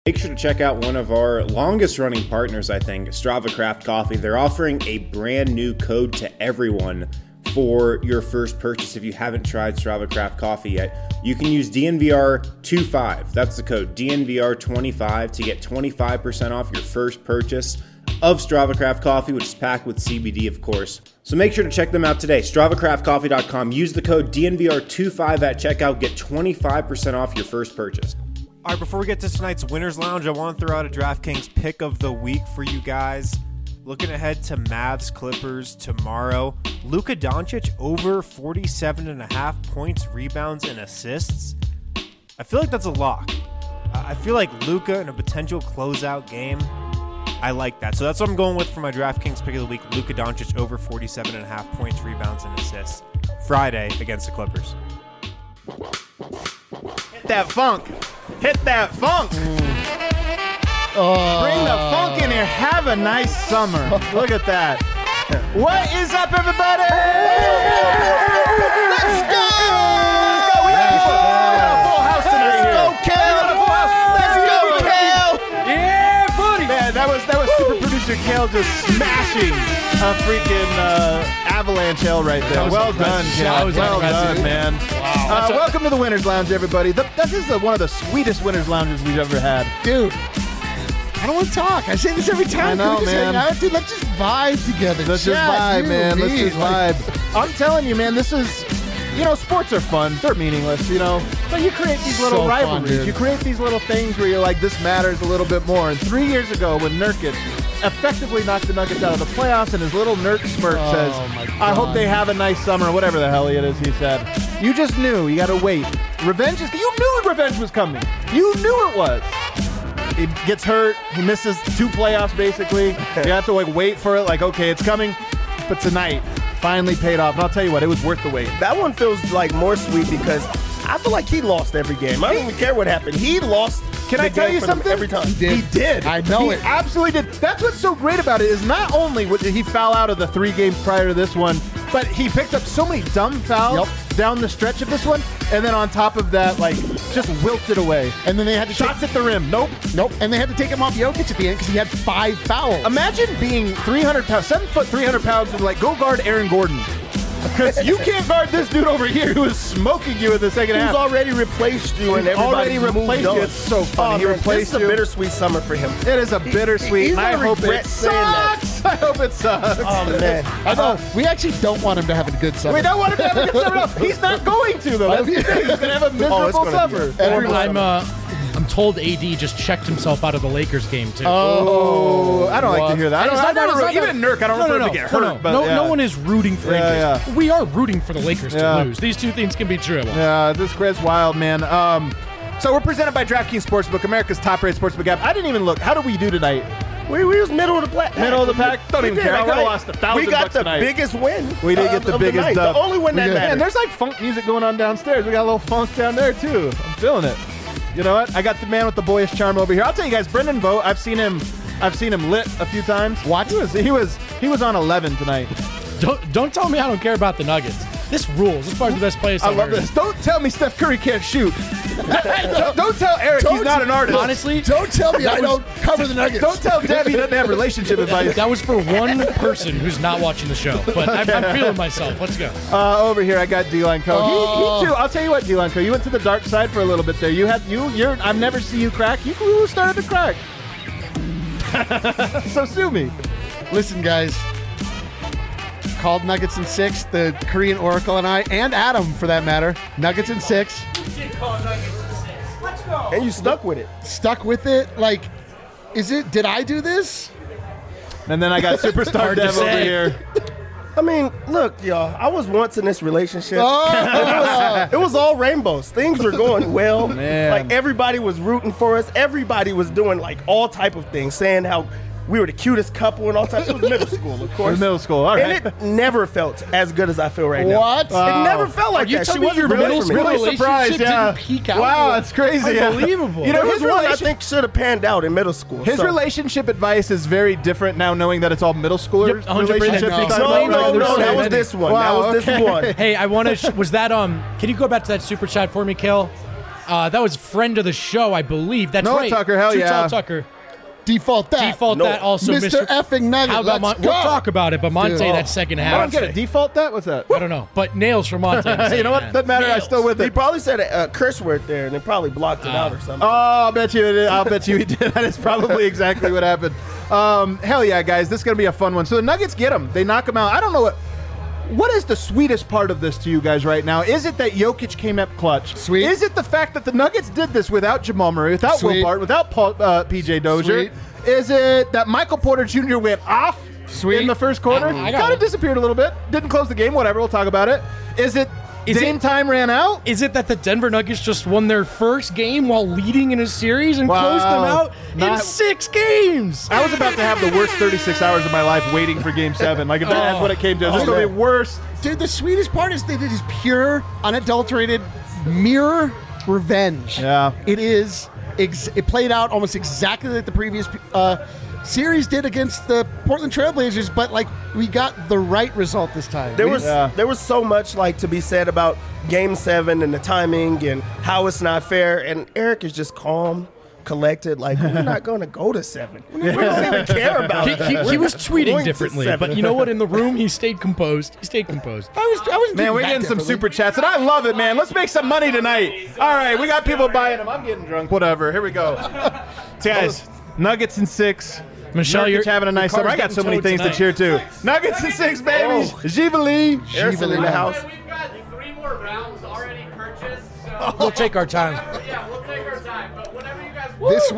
Make sure to check out one of our longest running partners, I think, Strava Craft Coffee. They're offering a brand new code to everyone for your first purchase. If you haven't tried Strava Craft Coffee yet, you can use DNVR25. That's the code, DNVR25, to get 25% off your first purchase of Strava Craft Coffee, which is packed with CBD, of course. So make sure to check them out today. StravaCraftCoffee.com. Use the code DNVR25 at checkout. Get 25% off your first purchase. All right, before we get to tonight's Winners Lounge, I want to throw out a DraftKings pick of the week for you guys. Looking ahead to Mavs Clippers tomorrow. Luka Doncic over 47.5 points, rebounds, and assists. I feel like that's a lock. I feel like Luka in a potential closeout game. I like that. So that's what I'm going with for my DraftKings pick of the week. Luka Doncic over 47.5 points, rebounds, and assists. Friday against the Clippers. Hit that funk. Hit that funk. Bring the funk in here. Have a nice summer. Look at that. What is up, everybody? Let's go. We got a full house tonight. Let's go, Cal. Let's go, Cal. Yeah, buddy. Man, that was super producer Cal just smashing a freaking avalanche hell right there. Well done, Cal. Well done, man. Wow. Welcome to the Winners Lounge, everybody. This is one of the sweetest Winners Lounges we've ever had. Dude, I don't want to talk. I say this every time. I know, man. Dude, let's just vibe together. Let's just vibe, man. Let's just vibe. I'm telling you, man, this is, sports are fun. They're meaningless, But you create these little rivalries. You create these little things where you're like, this matters a little bit more. And 3 years ago, when Nurkic effectively knocked the Nuggets out of the playoffs, and his little Nurk smirk says, I hope they have a nice summer, whatever the hell it is he said. You just knew. You got to wait. You knew revenge was coming. You knew it was. He gets hurt. He misses 2 playoffs, basically. You have to wait for it. Okay, it's coming. But tonight, finally paid off. And I'll tell you what, it was worth the wait. That one feels more sweet because I feel like he lost every game. I don't even care what happened. He lost. Can I tell you something? Every time. He did. I know he absolutely did. That's what's so great about it is not only did he foul out of the 3 games prior to this one, but he picked up so many dumb fouls down the stretch of this one, and then on top of that, just wilted away. And then they had to shots at the rim. Nope. And they had to take him off Jokic at the end because he had 5 fouls. Imagine being 300 pounds, 7 foot, 300 pounds, and go guard Aaron Gordon. Because you can't guard this dude over here who is smoking you in the second half. He's already replaced you, and everybody's moved on. It's so funny. He replaced you. It's a bittersweet summer for him. It is a bittersweet. I hope it sucks. I hope it sucks. Oh, man. I know. We actually don't want him to have a good summer. We don't want him to have a good summer. He's not going to, though. That's the thing. He's going to have a miserable summer. I'm told AD just checked himself out of the Lakers game, too. Oh, I don't like to hear that. Even Nurk, I don't want him to get hurt. No one is rooting for injuries. We are rooting for the Lakers to lose. These two things can be true. Yeah, this grid's wild, man. So we're presented by DraftKings Sportsbook, America's top-rated sportsbook app. I didn't even look. How did we do tonight? We was middle of the pack. Middle of the pack? Don't even care. I could have lost $1,000 We got the tonight. biggest win. We did get the biggest dub. The only win that mattered. And there's funk music going on downstairs. We got a little funk down there, too. I'm feeling it. You know what? I got the man with the boyish charm over here. I'll tell you guys, Brendan Vogt, I've seen him lit a few times. What? He was on 11 tonight. Don't tell me I don't care about the Nuggets. This rules. This part's the best place I love this. Don't tell me Steph Curry can't shoot. Don't tell Eric he's not an artist. Honestly, don't tell me I don't cover the Nuggets. Don't tell Debbie he doesn't have relationship advice. That was for one person who's not watching the show, but I'm feeling myself. Let's go. Over here, I got D-Line Co. He too. I'll tell you what, D-Line Co. You went to the dark side for a little bit there. I've never seen you crack. You started to crack. So sue me. Listen, guys. Called Nuggets in 6, the Korean Oracle and I, and Adam for that matter. Nuggets in 6. You did call Nuggets in 6. Let's go. And you stuck with it. Stuck with it? Did I do this? And then I got Superstar Dev over here. I mean, look, y'all, I was once in this relationship. It was all rainbows. Things were going well. Man. Everybody was rooting for us. Everybody was doing all type of things, saying how we were the cutest couple and all types. It was middle school, of course. It was middle school, all right. And it never felt as good as I feel right now. What? It never felt like that. She wasn't middle school really surprised, didn't peak out. Wow, that's crazy. Unbelievable. You know, his one I think should have panned out in middle school. His relationship advice is very different now, knowing that it's all middle schoolers. Yep, 100%. Relationships. No, that was this one. Wow, that was this one. Hey, I want to. Was that Can you go back to that super chat for me, Kel? That was friend of the show, I believe. That's Noah right. Tucker, hell yeah. Noah Tucker. Default that. That also, Mr. effing Nugget. How about let's we'll go. talk about it, but Monte, that second half. I don't get it. Default that? What's that? I don't know. But nails for Monte. You know what? Doesn't matter. I'm still with He it. probably said a curse word there, and they probably blocked it out or something. Oh, I'll bet you he did. That is probably exactly what happened. Hell yeah, guys. This is going to be a fun one. So the Nuggets get them. They knock them out. I don't know what is the sweetest part of this to you guys right now? Is it that Jokic came up clutch? Sweet. Is it the fact that the Nuggets did this without Jamal Murray, without Sweet. Will Barton, without PJ Dozier? Sweet. Is it that Michael Porter Jr. went off Sweet. in the first quarter? I got Kind of it. disappeared a little bit. Didn't close the game. Whatever. We'll talk about it. Is it Dame time ran out? Is it that the Denver Nuggets just won their first game while leading in a series and closed them out in 6 games? I was about to have the worst 36 hours of my life waiting for Game 7. Like, if that's what it came to. It was going to be worst. Dude, the sweetest part is that it is pure, unadulterated mirror revenge. Yeah. It is. It played out almost exactly like the previous series did against the Portland Trailblazers, but like we got the right result this time. There was so much like to be said about Game 7 and the timing and how it's not fair, and Eric is just calm, collected. Like, we're not going to go to 7. We don't even care about it. He was We're tweeting going to differently, 7. but you know what? In the room, he stayed composed. I was Man, we're getting some super chats, and I love it, man. Let's make some money tonight. All right, we got people buying them. I'm getting drunk. Whatever. Here we go. Guys, Nuggets in 6. Michelle, Nurkic you're having a nice summer. I got so many things to cheer to. Nuggets in 6, baby. Jivali. Eric's in the house. We've got 3 more rounds already purchased, so We'll take our time. yeah, we'll take our time. But whenever you guys This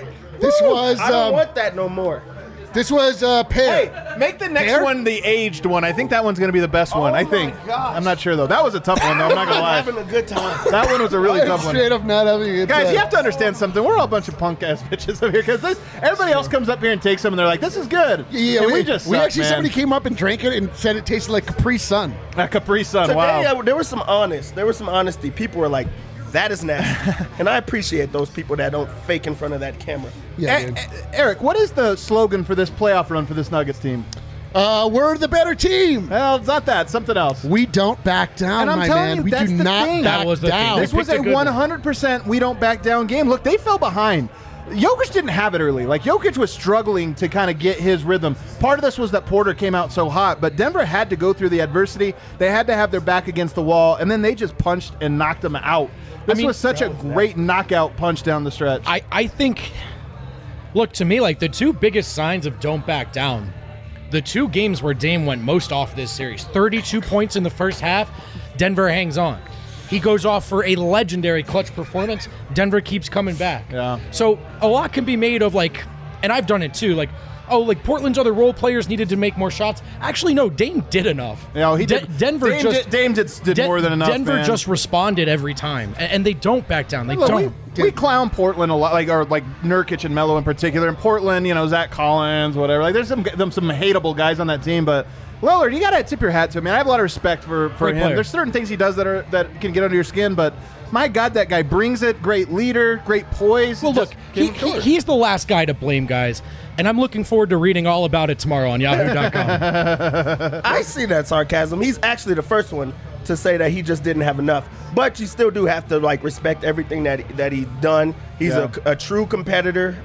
was I don't want that no more. Pear. Hey, make the next Pear? one the aged one. I think that one's going to be the best one. I think. gosh. I'm not sure, though. That was a tough one, though. I'm not going to I'm lie. having a good time. That one was a really I'm tough one. straight up not having a good Guys, time. you have to understand something. We're all a bunch of punk ass bitches up here because everybody else comes up here and takes them and they're like, "This is good." Yeah, and we just suck, actually man. somebody came up and drank it and said it tasted like Capri Sun. A Capri Sun. Today, Wow. there was some honesty. People were like, that is nasty. And I appreciate those people that don't fake in front of that camera. Yeah, dude. Eric, what is the slogan for this playoff run for this Nuggets team? We're the better team. Well, it's not that. Something else. We don't back down, And I'm my telling man. you, We that's do the not thing. back That was the thing. down. This was a picked a good one. 100% we don't back down game. Look, they fell behind. Jokic didn't have it early. Like, Jokic was struggling to kind of get his rhythm. Part of this was that Porter came out so hot, but Denver had to go through the adversity. They had to have their back against the wall, and then they just punched and knocked them out. This was such a great knockout punch down the stretch. I think, look, to me, like the 2 biggest signs of don't back down, the 2 games where Dame went most off this series, 32 points in the first half, Denver hangs on. He goes off for a legendary clutch performance. Denver keeps coming back. Yeah. So a lot can be made of like, and I've done it too, like, oh, like Portland's other role players needed to make more shots. Actually, no, Dame did enough. Yeah, he did. Denver Dame did more than enough. Denver man. just responded every time, and they don't back down. They Look, don't. we clown Portland a lot, like Nurkic and Melo in particular. In Portland, Zach Collins, whatever. Like, there's some hateable guys on that team, but Lillard, you gotta tip your hat to him, man. I have a lot of respect for him. player. There's certain things he does that can get under your skin, but my God, that guy brings it. Great leader, great poise. Well, look, Just he's the last guy to blame, guys, and I'm looking forward to reading all about it tomorrow on Yahoo.com. I see that sarcasm. He's actually the first one to say that he just didn't have enough. But you still do have to respect everything that he's done. He's a true competitor.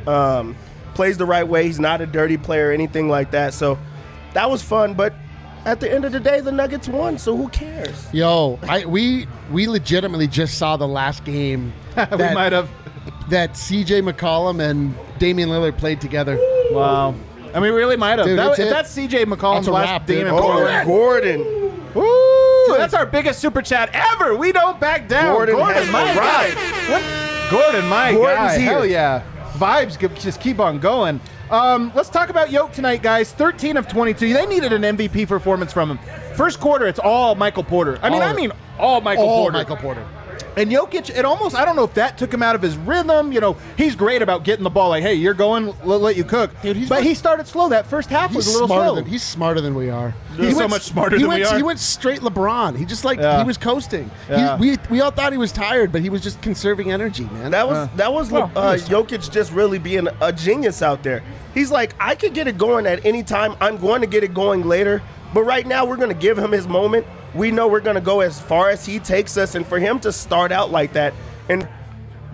Plays the right way. He's not a dirty player or anything like that. So that was fun. But at the end of the day, the Nuggets won. So who cares? Yo, we legitimately just saw the last game. we might have. That C.J. McCollum and Damian Lillard played together. Wow. I mean, we really might have. Dude, If it. that's C.J. McCollum's That's a last wrap, game dude. in Oh, Portland. Gordon. Woo! That's our biggest super chat ever. We don't back down. Gordon has my arrived. guy. What? Gordon, my Gordon's guy. here. Hell yeah. Vibes just keep on going. Let's talk about Yoke tonight, guys. 13 of 22. They needed an MVP performance from him. First quarter, it's all Michael Porter. I mean, all Michael Porter. And Jokic, I don't know if that took him out of his rhythm. He's great about getting the ball. Like, hey, you're going, we'll let you cook. Dude, he started slow. That first half was a little slow. He's smarter than we are. He's so much smarter than we are. He went straight LeBron. He just he was coasting. Yeah. We all thought he was tired, but he was just conserving energy, man. That was Jokic just really being a genius out there. He's like, I could get it going at any time. I'm going to get it going later. But right now, we're going to give him his moment. We know we're going to go as far as he takes us. And for him to start out like that and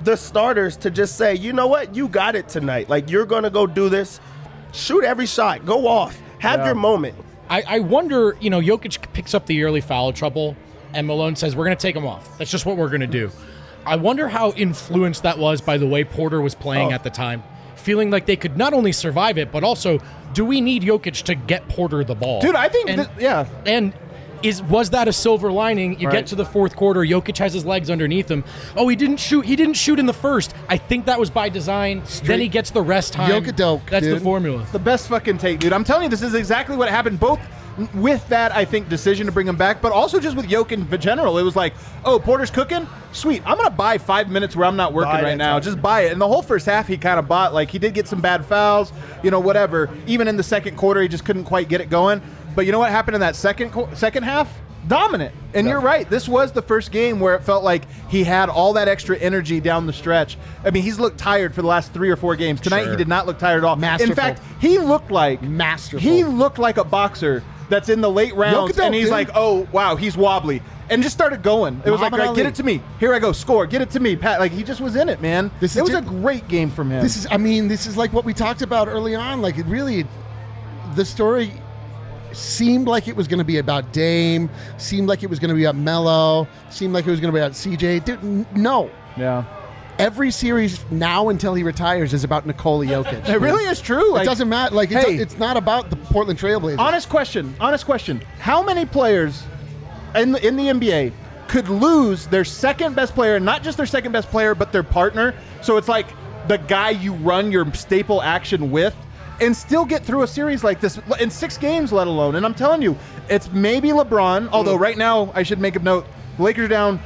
the starters to just say, you know what, you got it tonight. Like, you're going to go do this. Shoot every shot. Go off. Have your moment. I wonder, Jokic picks up the early foul trouble, and Malone says, we're going to take him off. That's just what we're going to do. I wonder how influenced that was by the way Porter was playing at the time. Feeling like they could not only survive it, but also, do we need Jokic to get Porter the ball? Dude, I think, And was that a silver lining? You get to the fourth quarter, Jokic has his legs underneath him. Oh, he didn't shoot. He didn't shoot in the first. I think that was by design. Then he gets the rest time. Jokic-doke, That's dude. the formula. The best fucking take, dude. I'm telling you, this is exactly what happened. Both with that, I think, decision to bring him back, but also just with Jokic in general. It was like, oh, Porter's cooking? Sweet. I'm going to buy 5 minutes where I'm not working right now. Just buy it. And the whole first half, he kind of bought. Like, he did get some bad fouls, whatever. Even in the second quarter, he just couldn't quite get it going. But you know what happened in that second half? Dominant. And you're right. This was the first game where it felt like he had all that extra energy down the stretch. I mean, he's looked tired for the last 3 or 4 games. Tonight, he did not look tired at all. Masterful. In fact, he looked like He looked like a boxer that's in the late rounds, and he's like, oh, wow, he's wobbly. And just started going. It was like, right, get it to me. Here I go. Score. Get it to me. Pat, like, he just was in it, man. It was a great game from him. This is like what we talked about early on. Like, it really, the story seemed like it was going to be about Dame, seemed like it was going to be about Melo, seemed like it was going to be about CJ. Dude, no. Yeah. Every series now until he retires is about Nikola Jokic. It really is true. It doesn't matter. Like, it's not about the Portland Trailblazers. Honest question. How many players in the NBA could lose their second best player, not just their second best player, but their partner? So it's like the guy you run your staple action with, and still get through a series like this in 6 games, let alone. And I'm telling you, it's maybe LeBron, although right now I should make a note, the Lakers are down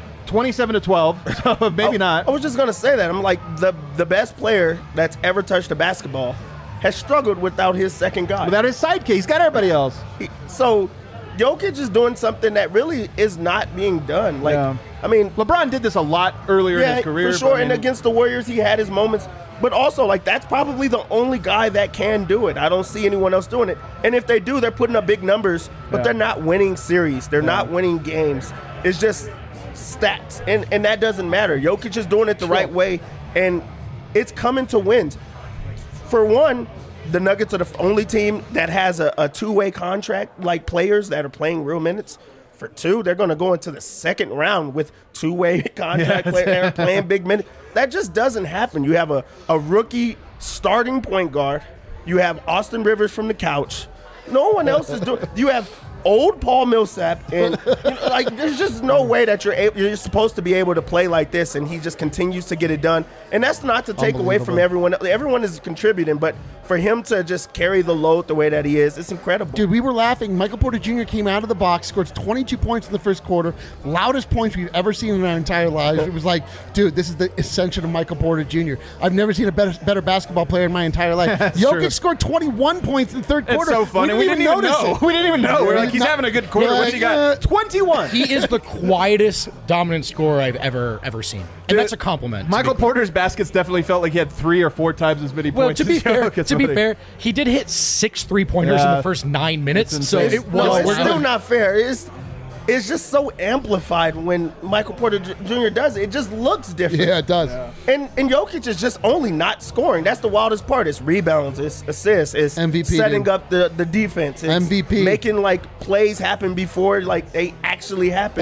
27-12, so maybe not. I was just going to say that. I'm like, the best player that's ever touched a basketball has struggled without his second guy. Without his sidekick. He's got everybody else. So Jokic is doing something that really is not being done. Like, I mean, LeBron did this a lot earlier in his career. For sure, and against the Warriors, he had his moments. But also, like, that's probably the only guy that can do it. I don't see anyone else doing it. And if they do, they're putting up big numbers, but they're not winning series. They're not winning games. It's just stats, and that doesn't matter. Jokic is doing it the right way, and it's coming to wins. For one, the Nuggets are the only team that has a two-way contract, like players that are playing real minutes. For 2, they're going to go into the second round with two-way contract players that are playing big minutes. That just doesn't happen. You have a rookie starting point guard. You have Austin Rivers from the couch. No one else is doing. You have old Paul Millsap, and like, there's just no way that you're supposed to be able to play like this, and he just continues to get it done. And that's not to take away from everyone. Everyone is contributing, but for him to just carry the load the way that he is, it's incredible. Dude, we were laughing. Michael Porter Jr. came out of the box, scored 22 points in the first quarter, loudest points we've ever seen in our entire lives. It was like, dude, this is the ascension of Michael Porter Jr. I've never seen a better basketball player in my entire life. Jokic scored 21 points in the third quarter. It's so funny. We didn't even know. We didn't even know. We're like, he's having a good quarter. What's he got? 21. He is the quietest dominant scorer I've ever seen. And Dude, that's a compliment. Michael Porter's baskets definitely felt like he had 3 or 4 times as many points. To be fair, he did hit 6 3-pointers in the first 9 minutes. So it was. It's still not fair. It's just so amplified when Michael Porter Jr. does it. It just looks different. Yeah, it does. And Jokic is just only not scoring. That's the wildest part. It's rebounds, it's assists, it's MVP, setting up the defense. It's MVP. Making, like, plays happen before, like, they actually happen.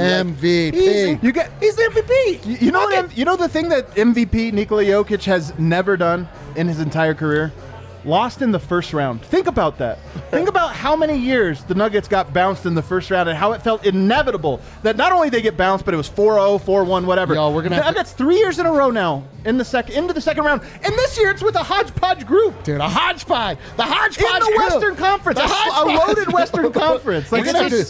MVP. Like, he's MVP. You know the thing that MVP Nikola Jokic has never done in his entire career? Lost in the first round. Think about that. Think about how many years the Nuggets got bounced in the first round and how it felt inevitable that not only they get bounced, but it was 4-0, 4-1, whatever. Yo, we're gonna Nuggets 3 years in a row now into the second round. And this year it's with a hodgepodge group. Dude, a hodgepodge. The hodgepodge in the group. Western Conference. A loaded Western Conference. Like,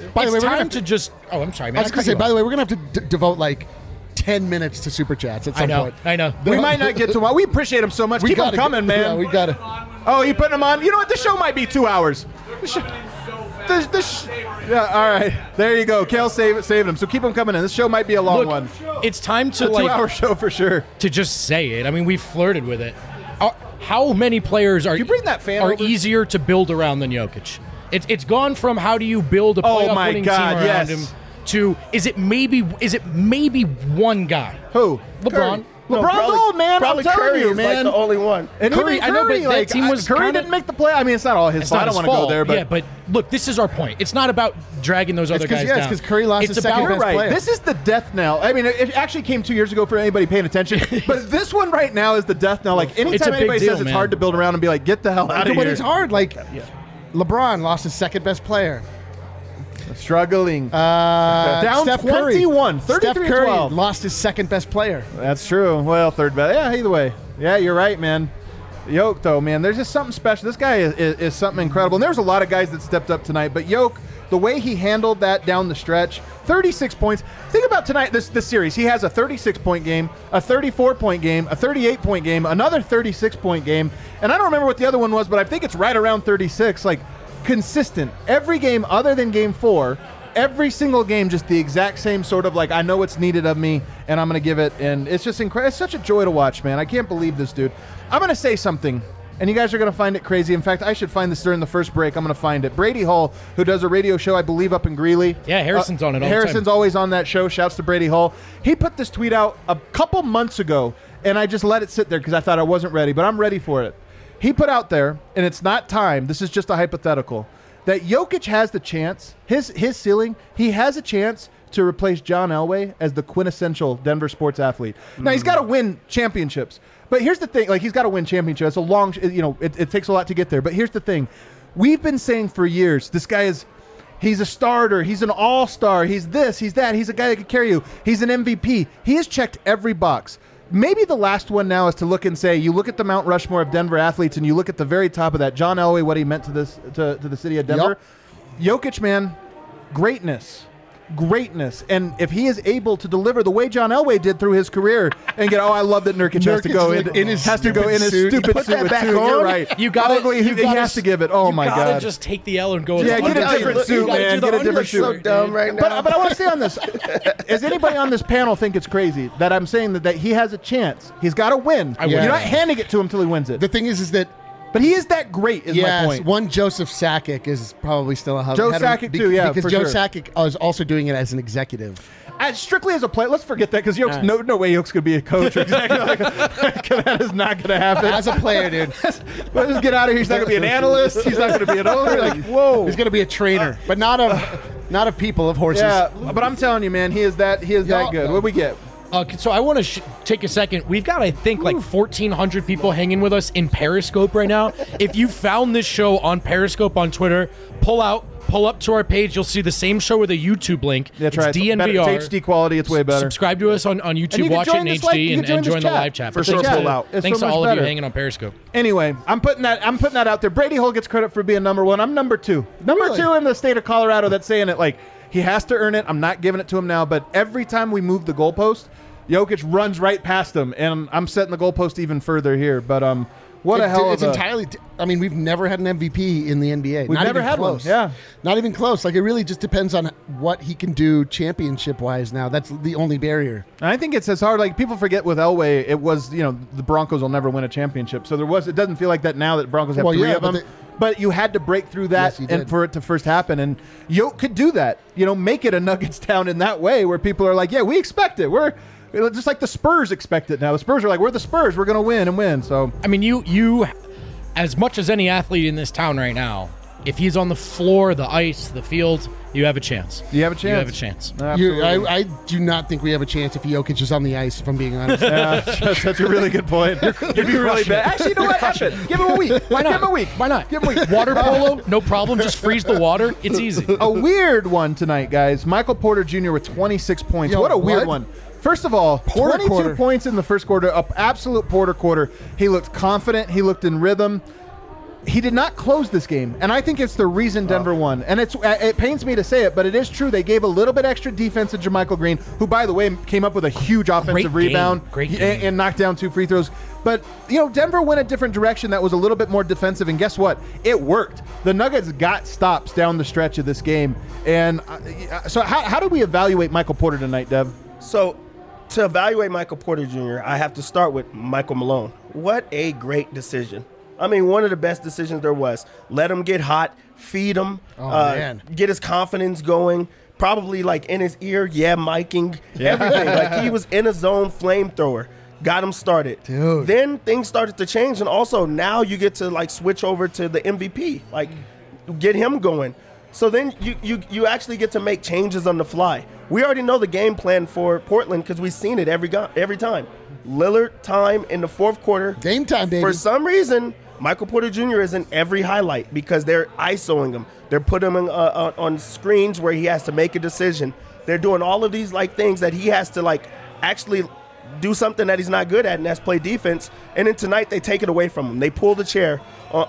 Oh, I'm sorry, man. I was going to say, by the way, we're going to have to devote, like, 10 minutes to Super Chats at some point. I know. We might not get to them. We appreciate them so much. Keep them coming, man. Yeah, we got it. Oh, you putting them on? You know what? The show might be 2 hours. Yeah, all right. There you go. Kale saved them. So keep them coming in. This show might be a long one. It's time to, a 2-hour show for sure. To just say it. I mean, we've flirted with it. How many players are easier to build around than Jokic? It's gone from how do you build a playoff winning team around him to is it maybe one guy? Who? LeBron. LeBron's old, man. Probably I'm telling Curry you, is man. like the only one. And Curry, even I know, but Curry, that like, team was Curry kinda- didn't make the play. I mean, it's not all his It's fault. not I don't his want to go fault. there, but yeah, but look, this is our point. It's not about dragging those other guys down. it's because Curry lost his second You're best right. player. This is the death knell. I mean, it actually came 2 years ago for anybody paying attention. But this one right now is the death knell. Like, It's a anytime big anybody deal, says it's man. hard to build around and be like, get the hell out of But here. it's hard. Like LeBron lost his second best player. Struggling. Down Steph 21, 33 Steph Curry 12. lost his second best player. That's true. Well, third best. Yeah, either way. Yeah, you're right, man. Yoke, though, man, there's just something special. This guy is something incredible. And there's a lot of guys that stepped up tonight, but Yoke, the way he handled that down the stretch, 36 points. Think about tonight, this series. He has a 36-point game, a 34-point game, a 38-point game, another 36-point game, and I don't remember what the other one was, but I think it's right around 36. Like, consistent. Every game other than game 4, every single game just the exact same sort of like, I know what's needed of me, and I'm going to give it, and it's just incredible. It's such a joy to watch, man. I can't believe this dude. I'm going to say something, and you guys are going to find it crazy. In fact, I should find this during the first break. I'm going to find it. Brady Hall, who does a radio show, I believe, up in Greeley. Yeah, Harrison's on it all the time. Harrison's always on that show. Shouts to Brady Hall. He put this tweet out a couple months ago, and I just let it sit there because I thought I wasn't ready, but I'm ready for it. He put out there, and it's not time, this is just a hypothetical, that Jokic has the chance, his ceiling, he has a chance to replace John Elway as the quintessential Denver sports athlete. Now, he's got to win championships. But here's the thing, like, he's got to win championships. It's a long, it takes a lot to get there. But here's the thing. We've been saying for years, this guy he's a starter, he's an all-star, he's this, he's that, he's a guy that could carry you, he's an MVP. He has checked every box. Maybe the last one now is to look and say, you look at the Mount Rushmore of Denver athletes and you look at the very top of that, John Elway, what he meant to the city of Denver. Yep. Jokic, man, greatness. And if he is able to deliver the way John Elway did through his career and get, I love that Nurkic has to go in his stupid suit with back two. on. You're right. You got Ugly, he has to give it. Oh my You God. gotta just take the L and go. Yeah, with get a different suit, man. Get a different so suit. dumb right now. But I want to say on this, does anybody on this panel think it's crazy that I'm saying that he has a chance? He's got to win. would. You're not handing it to him until he wins it. The thing is that But he is that great, is my point. one Joseph Sakic is probably still a hub. Joe Sakic too, yeah, because for Joe sure. Sakic is also doing it as an executive. Strictly as a player, let's forget that because no way Yoke's going to be a coach or exactly like that is not going to happen. As a player, dude, Let's get out of here. He's not going to be an analyst. He's not going to be an owner. Like, whoa. he's going to be a trainer, but not of people, of horses. Yeah, but I'm telling you, man, he is that good. What we get? So I want to take a second. We've got, I think, like 1,400 people hanging with us in Periscope right now. If you found this show on Periscope on Twitter, pull up to our page. You'll see the same show with a YouTube link. That's it's right. DNVR. It's HD quality. It's way better. Subscribe to us on YouTube, watch it in HD, and join the live chat. For sure, pull out. Thanks to all of you hanging on Periscope. Anyway, I'm putting that out there. Brady Hall gets credit for being number 1. I'm number 2. Number 2 in the state of Colorado that's saying it like he has to earn it. I'm not giving it to him now, but every time we move the goalpost, Jokic runs right past him, and I'm setting the goalpost even further here. But what a hell of a... entirely... I mean, we've never had an MVP in the NBA. We've never had one, yeah. Not even close. Like, it really just depends on what he can do championship-wise now. That's the only barrier. I think it's as hard. Like, people forget with Elway, it was, the Broncos will never win a championship. So it doesn't feel like that now that Broncos have 3 of them. But you had to break through that and for it to first happen. And Yoke could do that. Make it a Nuggets town in that way where people are like, yeah, we expect it. We're just like the Spurs expect it now. The Spurs are like, we're the Spurs. We're going to win and win. So I mean, you, as much as any athlete in this town right now, if he's on the floor, the ice, the field, you have a chance. You have a chance. You have a chance. I do not think we have a chance if Jokic is on the ice, if I'm being honest. That's a really good point. You'd be really bad. Actually, you know what? Happen. Give him a week. Why not? Give him a week. Why not? Give him a week. Water polo, no problem. Just freeze the water. It's easy. A weird one tonight, guys. Michael Porter Jr. with 26 points. Yo, what a weird what? one. First of all, Porter 22 quarter. points in the first quarter, an absolute Porter quarter. He looked confident. He looked in rhythm. He did not close this game, and I think it's the reason Denver won. And it pains me to say it, but it is true. They gave a little bit extra defense to JaMychal Green, who, by the way, came up with a huge offensive rebound and knocked down 2 free throws. But, Denver went a different direction that was a little bit more defensive, and guess what? It worked. The Nuggets got stops down the stretch of this game. And so how do we evaluate Michael Porter tonight, Dev? So, to evaluate Michael Porter Jr., I have to start with Michael Malone. What a great decision. I mean, one of the best decisions there was. Let him get hot, feed him, get his confidence going, probably like in his ear, miking, everything. Like he was in a zone flamethrower. got him started. Dude. Then things started to change, and also now you get to like switch over to the MVP, like get him going. So then you actually get to make changes on the fly. We already know the game plan for Portland because we've seen it every time. Lillard time in the fourth quarter. Game time, baby. For some reason, Michael Porter Jr. is in every highlight because they're ISOing him. They're putting him on screens where he has to make a decision. They're doing all of these like things that he has to like actually do something that he's not good at, and that's play defense. And then tonight they take it away from him. They pull the chair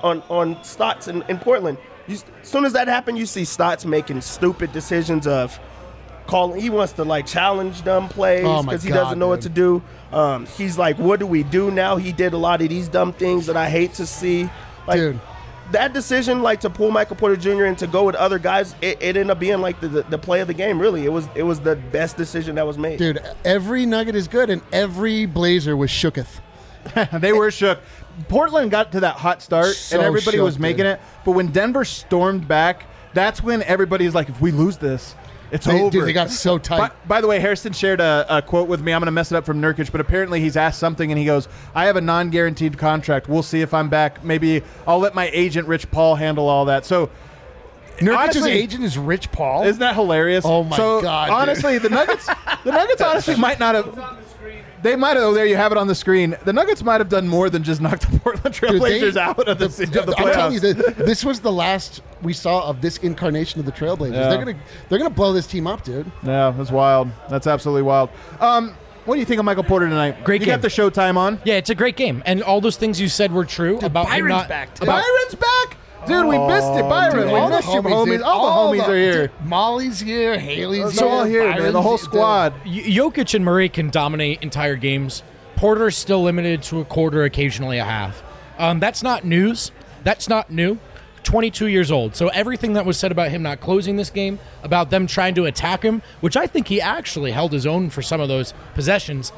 on Stotts in Portland. As soon as that happened, you see Stotts making stupid decisions of calling. He wants to like challenge dumb plays because he doesn't know what to do. He's like, what do we do now? He did a lot of these dumb things that I hate to see. Like, Dude. That decision, like to pull Michael Porter Jr. and to go with other guys, it ended up being like the play of the game. Really, it was the best decision that was made. Dude, every Nugget is good, and every Blazer was shooketh. They were shook. Portland got to that hot start, So and everybody was shook, making dude. it. But when Denver stormed back, that's when everybody's like, if we lose this, it's over. Dude, they got so tight. By the way, Harrison shared a quote with me. I'm going to mess it up from Nurkic, but apparently he's asked something, and he goes, I have a non-guaranteed contract. We'll see if I'm back. Maybe I'll let my agent, Rich Paul, handle all that. So Nurkic's honestly, agent is Rich Paul. isn't that hilarious? Oh, my God, dude. Honestly, the Nuggets honestly might not have. They might have. Oh, there you have it on the screen. The Nuggets might have done more than just knock the Portland Trailblazers out of the playoffs. I'm telling you, this was the last we saw of this incarnation of the Trailblazers. Yeah. They're gonna blow this team up, dude. Yeah, that's wild. That's absolutely wild. What do you think of Michael Porter tonight? Great you game. got the Showtime on. Yeah, it's a great game, and all those things you said were true about him Byron's not. back, too. Byron's back, dude. We missed it, Byron. Dude, we all the missed you, homies, homies. dude. All the homies are here. Dude, Molly's here, Haley's It's all here, man. The Byron's whole here, squad. Jokic and Murray can dominate entire games. Porter's still limited to a quarter, occasionally a half. That's not news. That's not new. 22 years old. So everything that was said about him not closing this game, about them trying to attack him, which I think he actually held his own for some of those possessions,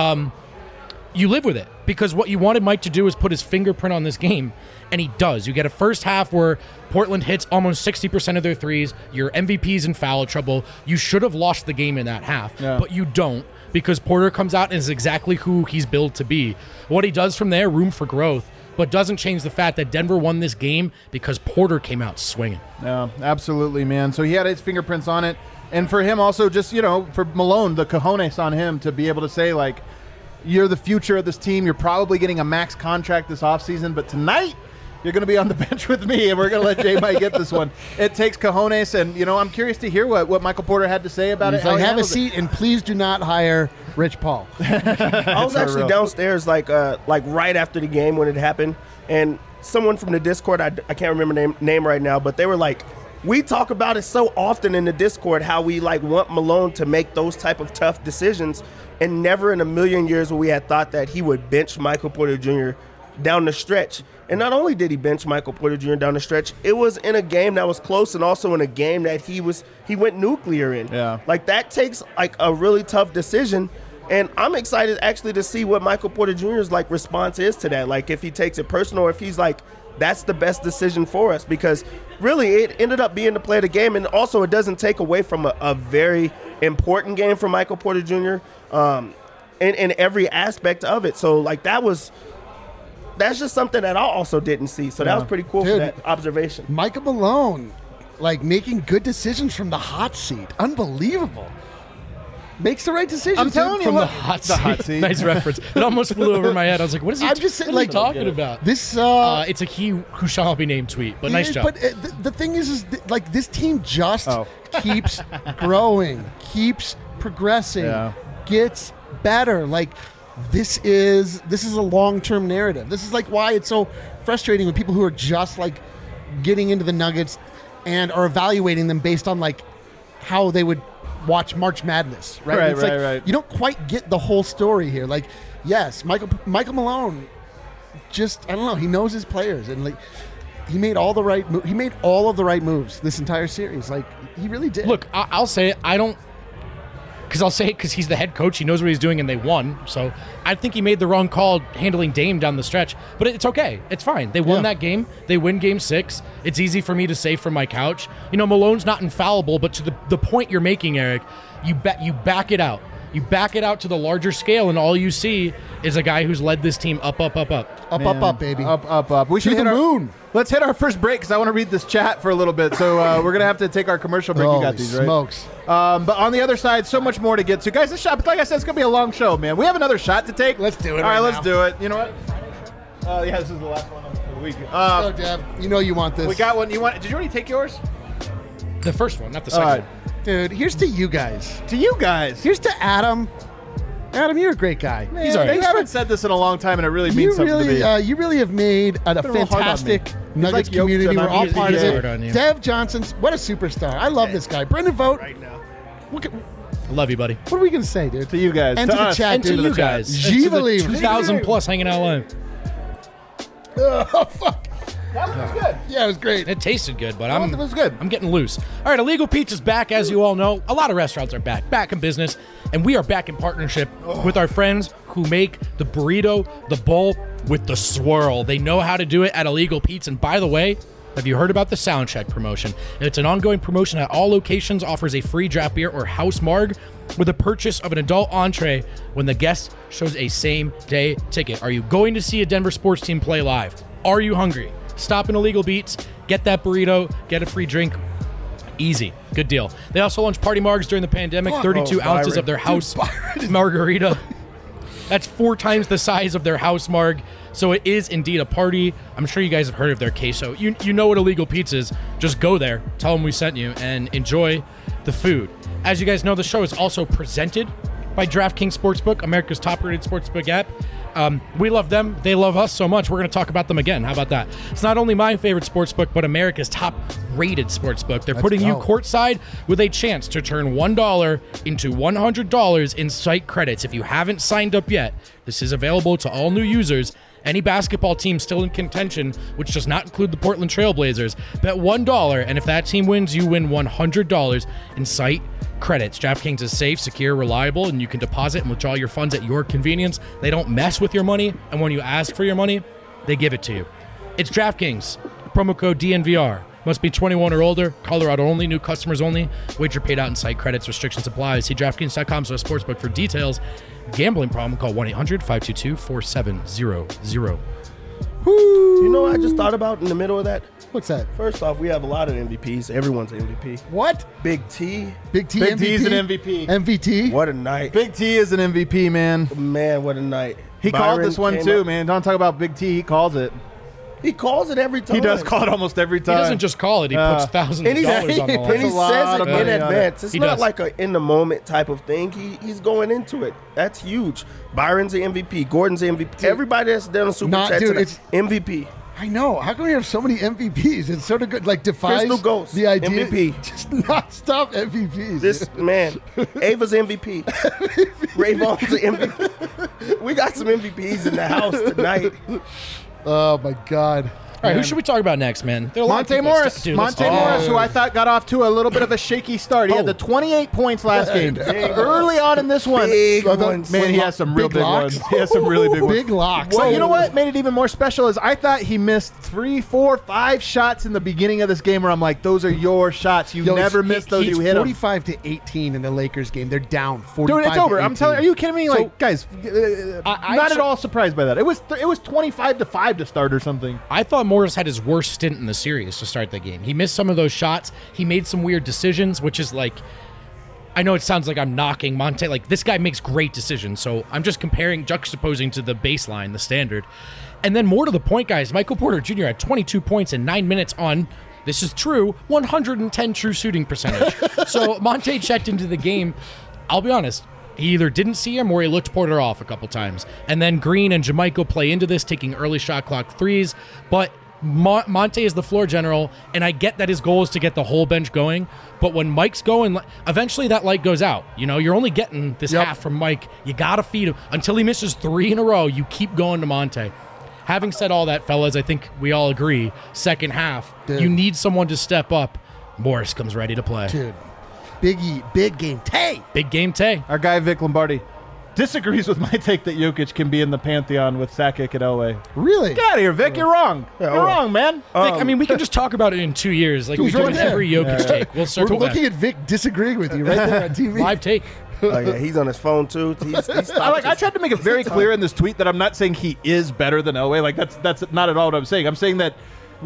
you live with it. Because what you wanted Mike to do is put his fingerprint on this game, and he does. You get a first half where Portland hits almost 60% of their threes. Your MVP's in foul trouble. You should have lost the game in that half, but you don't, because Porter comes out and is exactly who he's built to be. What he does from there, room for growth, but doesn't change the fact that Denver won this game because Porter came out swinging. Yeah, absolutely, man. So he had his fingerprints on it. And for him also, just, for Malone, the cojones on him to be able to say, like, you're the future of this team. You're probably getting a max contract this offseason, but tonight you're going to be on the bench with me, and we're going to let J-Mike get this one. It takes cojones, and, I'm curious to hear what Michael Porter had to say about He's it. like, have a seat, and please do not hire Rich Paul. I was actually downstairs like right after the game when it happened, and someone from the Discord, I can't remember name right now, but they were like, we talk about it so often in the Discord how we like want Malone to make those type of tough decisions, and never in a million years would we had thought that he would bench Michael Porter Jr. down the stretch. And not only did he bench Michael Porter Jr. down the stretch, it was in a game that was close, and also in a game that he went nuclear in. Yeah. Like that takes like a really tough decision. And I'm excited actually to see what Michael Porter Jr.'s like response is to that. Like if he takes it personal, or if he's like, that's the best decision for us, because really it ended up being the play of the game. And also it doesn't take away from a very important game for Michael Porter Jr. In every aspect of it. So like that's just something that I also didn't see. So that was pretty cool for Dude, that observation. Micah Malone, like making good decisions from the hot seat. Unbelievable. Makes the right decisions. I'm telling you, From look, the hot the seat. hot seat. Nice reference. It almost flew over my head. I was like, what is he, I'm just saying, what is he like, talking about? This It's a he who shall be named tweet, but nice job. But the thing is like this team just keeps growing, keeps progressing, gets better. Like this is a long-term narrative. This is like why it's so frustrating when people who are just like getting into the Nuggets and are evaluating them based on like how they would watch March Madness, right? It's like, you don't quite get the whole story here. Like, yes, Michael Malone, just I don't know. He knows his players, and like he made all the right moves this entire series. Like he really did. Look, I'll say it. I'll say it because he's the head coach. He knows what he's doing, and they won. So I think he made the wrong call handling Dame down the stretch. But it's okay. It's fine. They won that game. They win Game 6. It's easy for me to say from my couch. Malone's not infallible, but to the point you're making, Eric, you back it out. You back it out to the larger scale, and all you see is a guy who's led this team up, Up, baby. Up. We should To the hit moon. Let's hit our first break because I want to read this chat for a little bit. So we're going to have to take our commercial break. You got Holy these, right? smokes. But on the other side, so much more to get to. Guys, this shot, like I said, it's going to be a long show, man. We have another shot to take. Let's do it All right, right let's now. do it. You know what? Yeah, this is the last one for the week. Oh, Dev, you know you want this. We got one. Did you already take yours? The first one, not the All second. right. Dude, here's to you guys. To you guys. Here's to Adam. Adam, you're a great guy. Man, He's all right. You haven't said this in a long time, and it really means something to me. You really have made a Been a little hard on fantastic me. Nuggets He's like community. Jokic, We're all he's part of hard on it. you. Dev Johnson's, what a superstar. I love this guy. Brendan Vogt. Right now. What I love you, buddy. are we going to say, dude? To you guys. And to the us. chat, And to dude. you guys. G And to the believe. 2,000 plus hanging out live. Oh, fuck. That was good. Yeah, it was great. It tasted good, but It was good. I'm getting loose. All right, Illegal Pizza's back, as you all know. A lot of restaurants are back in business, and we are back in partnership with our friends who make the burrito, the bowl with the swirl. They know how to do it at Illegal Pizza. And by the way, have you heard about the Sound Check promotion? It's an ongoing promotion at all locations, offers a free draft beer or house marg with a purchase of an adult entree when the guest shows a same-day ticket. Are you going to see a Denver sports team play live? Are you hungry? Stop in Illegal Beats, get that burrito, get a free drink. Easy. Good deal. They also launched Party Margs during the pandemic, 32 ounces of their house margarita. That's 4 times the size of their house marg. So it is indeed a party. I'm sure you guys have heard of their queso. You know what Illegal Pizza is. Just go there, tell them we sent you, and enjoy the food. As you guys know, the show is also presented by DraftKings Sportsbook, America's top-rated sportsbook app. We love them. They love us so much. We're going to talk about them again. How about that? It's not only my favorite sportsbook, but America's top-rated sportsbook. They're putting you courtside with a chance to turn $1 into $100 in site credits. If you haven't signed up yet, this is available to all new users. Any basketball team still in contention, which does not include the Portland Trailblazers, bet $1, and if that team wins, you win $100 in site credits. DraftKings is safe, secure, reliable, and you can deposit and withdraw your funds at your convenience. They don't mess with your money, and when you ask for your money, they give it to you. It's DraftKings. Promo code DNVR. Must be 21 or older. Colorado only. New customers only. Wager paid out in site credits. Restrictions apply. See DraftKings.com/sportsbook for details. Gambling problem? Call 1-800-522-4700. You know what I just thought about in the middle of that? What's that? First off, we have a lot of MVPs. Everyone's an MVP. What? Big T. Big T Big MVP? T is an MVP. MVT? What a night. Big T is an MVP, man. Man, what a night. He called Byron this one came too, up- man. Don't talk about Big T. He calls it. He calls it every time. He does call it almost every He time. doesn't just call it. He puts thousands And of he, dollars on the and line. he a lot says of it money in on it. advance. It's He not does. like a in the moment type of thing. He's going into it. That's huge. Byron's the MVP. Gordon's the MVP. Everybody that's done a super Not- chat dude, tonight, it's- MVP. I know. How come we have so many MVPs? It's sort of good. Like defies Crystal Ghost, the idea. MVP. Just not stop MVPs. This man, Ava's MVP. Rayvon's the MVP. We got some MVPs in the house tonight. Oh my God. All right, who should we talk about next, man? There are a lot of Monte people- Morris. Dude, let's Monte talk- Morris, who I thought got off to a little bit of a shaky start. He had the 28 points last game. Early on in this one. Big ones. Man, he has some real Big big locks? ones. He has some really big ones. Big locks. So you know what made it even more special is I thought he missed 3, 4, 5 shots in the beginning of this game where I'm like, those are your shots. You Yo, never it's- miss those. It's You hit them. 45-18 in the Lakers game. They're down 45. Dude, it's over. I'm telling you. Are you kidding me? Like, guys, I- not at all surprised by that. It was 25-5 to start or something. I thought Morris had his worst stint in the series to start the game. He missed some of those shots. He made some weird decisions, which is like, I know it sounds like I'm knocking Monte. Like, this guy makes great decisions. So I'm just juxtaposing to the baseline, the standard. And then more to the point, guys, Michael Porter Jr. had 22 points in 9 minutes on, this is true, 110 true shooting percentage. So Monte checked into the game. I'll be honest. He either didn't see him or he looked Porter off a couple times. And then Green and Jamaica play into this, taking early shot clock threes. But Monte is the floor general, and I get that his goal is to get the whole bench going. But when Mike's going, eventually that light goes out. You know, you're only getting this half from Mike. You got to feed him. Until he misses 3 in a row, you keep going to Monte. Having said all that, fellas, I think we all agree, second half, you need someone to step up. Morris comes ready to play. Dude, big game. Tay. Big game, Tay. Our guy Vic Lombardi disagrees with my take that Jokic can be in the pantheon with Sakic and Elway. Really? Get out of here, Vic. You're wrong. You're wrong, man. Vic, I mean, we can just talk about it in 2 years. Like we He's do right in there. every Jokic take. We'll We're circle looking back. at Vic disagreeing with you right there on TV. Live take. Oh yeah, he's on his phone too. I tried to make it very clear in this tweet that I'm not saying he is better than Elway. Like that's not at all what I'm saying. I'm saying that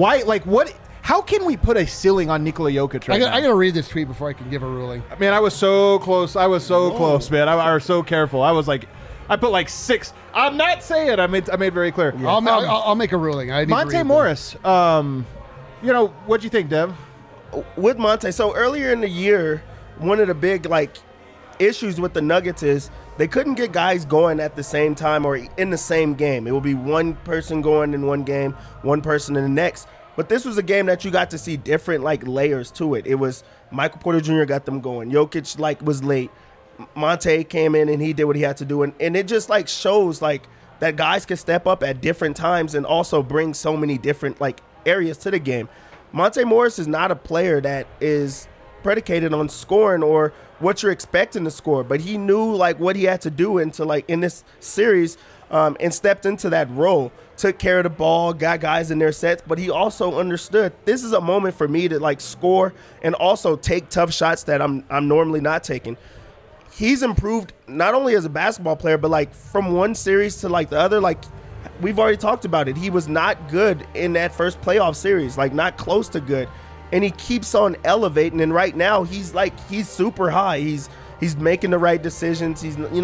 how can we put a ceiling on Nikola Jokic right now? I got to read this tweet before I can give a ruling. Man, I was so close. Close, man. I was so careful. I was like, I put like 6. I'm not saying. I made very clear. Yeah. I'll make a ruling. Monte Morris. What'd you think, Dev? With Monte, so earlier in the year, one of the big issues with the Nuggets is they couldn't get guys going at the same time or in the same game. It would be one person going in one game, one person in the next. But this was a game that you got to see different layers to it. It was Michael Porter Jr. got them going. Jokic was late. Monte came in and he did what he had to do, and it just shows that guys can step up at different times and also bring so many different areas to the game. Monte Morris is not a player that is predicated on scoring or what you're expecting to score, but he knew what he had to do in this series, and stepped into that role, took care of the ball, got guys in their sets, but he also understood this is a moment for me to score and also take tough shots that I'm normally not taking. He's improved not only as a basketball player, but from one series to the other. We've already talked about it. He was not good in that first playoff series, not close to good, and he keeps on elevating. And right now, he's super high. He's making the right decisions.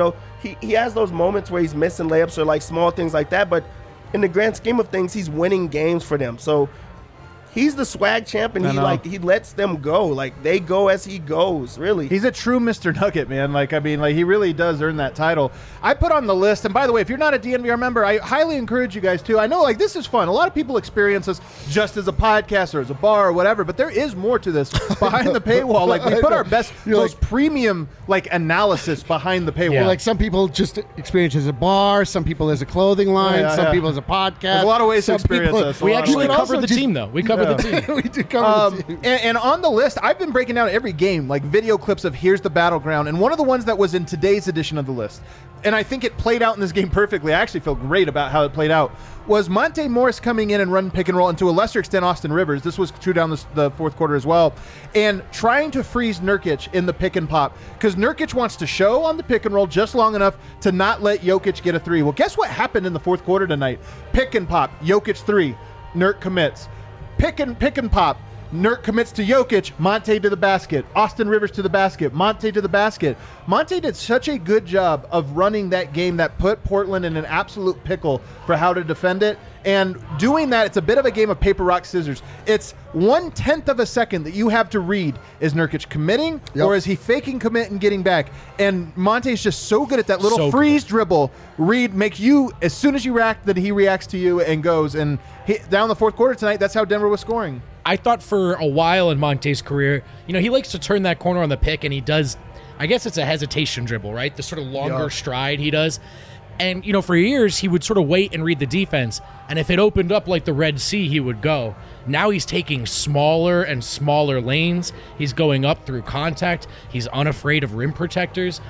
He has those moments where he's missing layups or small things like that, but in the grand scheme of things, he's winning games for them. So he's the swag champ, and he lets them go. They go as he goes, really. He's a true Mr. Nugget, man. He really does earn that title. I put on the list, and by the way, if you're not a DNVR member, I highly encourage you guys to. I know, this is fun. A lot of people experience this just as a podcast or as a bar or whatever, but there is more to this behind the paywall. We put our best, most premium, analysis behind the paywall. Yeah. Some people just experience as a bar, some people as a clothing line, some people as a podcast. There's a lot of ways to experience this. We actually covered the team, though. We covered the team. We do cover the team. And on the list, I've been breaking down every game, video clips of here's the battleground. And one of the ones that was in today's edition of the list, and I think it played out in this game perfectly, I actually feel great about how it played out, was Monte Morris coming in and running pick and roll, and to a lesser extent Austin Rivers. This was true down the fourth quarter as well. And trying to freeze Nurkic in the pick and pop, because Nurkic wants to show on the pick and roll just long enough to not let Jokic get a 3. Well, guess what happened in the fourth quarter tonight? Pick and pop, Jokic 3, Nurk commits. Pick and pop, Nurk commits to Jokic, Monte to the basket, Austin Rivers to the basket, Monte to the basket. Monte did such a good job of running that game that put Portland in an absolute pickle for how to defend it. And doing that, it's a bit of a game of paper, rock, scissors. It's 1/10 of a second that you have to read. Is Nurkic committing, or is he faking commit and getting back? And Monte's just so good at that little freeze dribble. Read, make you, as soon as you react, that he reacts to you and goes. And down the fourth quarter tonight, that's how Denver was scoring. I thought for a while in Monte's career, he likes to turn that corner on the pick, and he does, I guess it's a hesitation dribble, right? The sort of longer stride he does. And, for years, he would sort of wait and read the defense. And if it opened up like the Red Sea, he would go. Now he's taking smaller and smaller lanes. He's going up through contact. He's unafraid of rim protectors.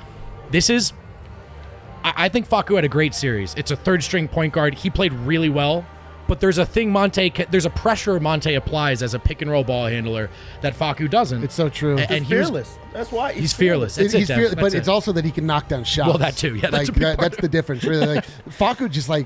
I think Facu had a great series. It's a third-string point guard. He played really well. But there's a pressure Monte applies as a pick-and-roll ball handler that Facu doesn't. It's so true. And he's fearless. That's why he's fearless. But it's also that he can knock down shots. Well, that too. Yeah, that's the difference. Really, Facu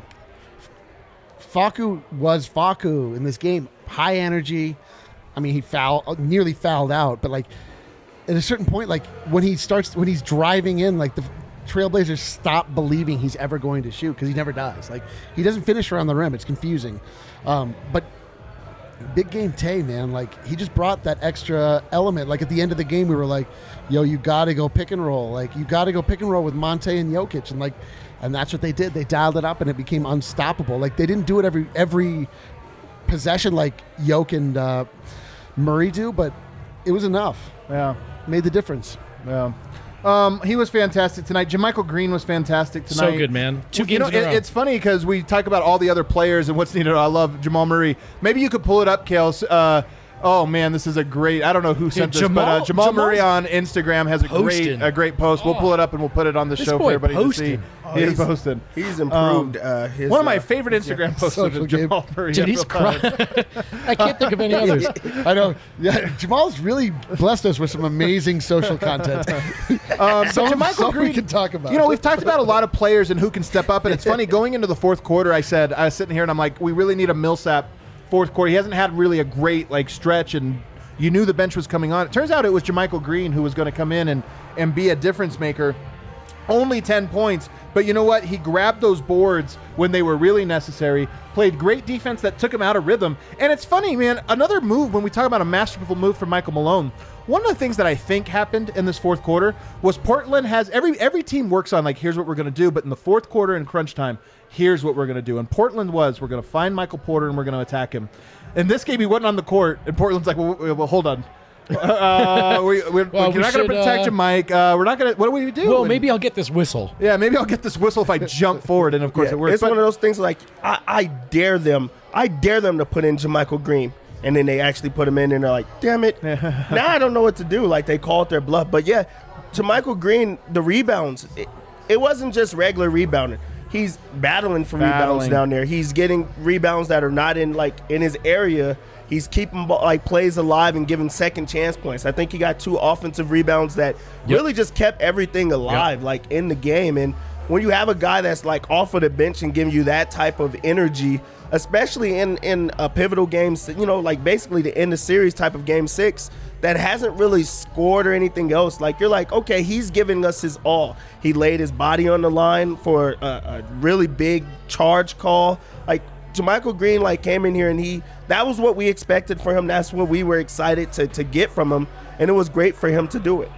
Facu was Facu in this game. High energy. I mean, he nearly fouled out, but at a certain point, when he's driving in, the Trailblazers stop believing he's ever going to shoot, because he never does. He doesn't finish around the rim. It's confusing. But big game Tay, man, he just brought that extra element. At the end of the game, we were like, yo, you got to go pick and roll. You got to go pick and roll with Monte and Jokic. And that's what they did. They dialed it up, and it became unstoppable. They didn't do it every possession like Jokic and Murray do, but it was enough. Yeah. Made the difference. Yeah. He was fantastic tonight. JaMychal Green was fantastic tonight. So good, man. 2 games in a row. It's funny because we talk about all the other players and what's needed. I love Jamal Murray. Maybe you could pull it up, Kales. Oh man, this is a great. I don't know who sent this, but Jamal Murray on Instagram has a great post. We'll pull it up and we'll put it on the show for everybody to see. He is posted. He's improved. One of my favorite Instagram posts is Jamal Murray. Dude, he's crying. I can't think of any others. I know. Yeah, Jamal's really blessed us with some amazing social content. Jamal Green, we can talk about. You know, we've talked about a lot of players and who can step up, and it's funny going into the fourth quarter. I was sitting here and I'm like, we really need a Millsap fourth quarter. He hasn't had really a great stretch, and you knew the bench was coming on. It turns out it was JaMychal Green who was going to come in and be a difference maker. Only 10 points, but you know what? He grabbed those boards when they were really necessary, played great defense that took him out of rhythm. And it's funny, man, another move, when we talk about a masterful move from Michael Malone, one of the things that I think happened in this fourth quarter was Portland has, every team works on, here's what we're going to do, but in the fourth quarter in crunch time, here's what we're going to do. And Portland we're going to find Michael Porter and we're going to attack him. In this game, he wasn't on the court, and Portland's like, well hold on. We're not going to protect you, Mike. We're not going to. What do we do? Well, maybe I'll get this whistle. Yeah, maybe I'll get this whistle if I jump forward, and of course it works. It's one of those things I dare them. I dare them to put in JaMychal Green, and then they actually put him in, and they're like, damn it. Now I don't know what to do. They called their bluff. But yeah, JaMychal Green, the rebounds, it wasn't just regular rebounding. He's battling for rebounds down there. He's getting rebounds that are not in his area. He's keeping plays alive and giving second chance points. I think he got 2 offensive rebounds that really just kept everything alive in the game. And when you have a guy that's off of the bench and giving you that type of energy, especially in a pivotal game, basically the end of series type of game 6 that hasn't really scored or anything else, you're okay, he's giving us his all. He laid his body on the line for a really big charge call. JaMychal Green came in here and that was what we expected for him. That's what we were excited to get from him, and it was great for him to do it.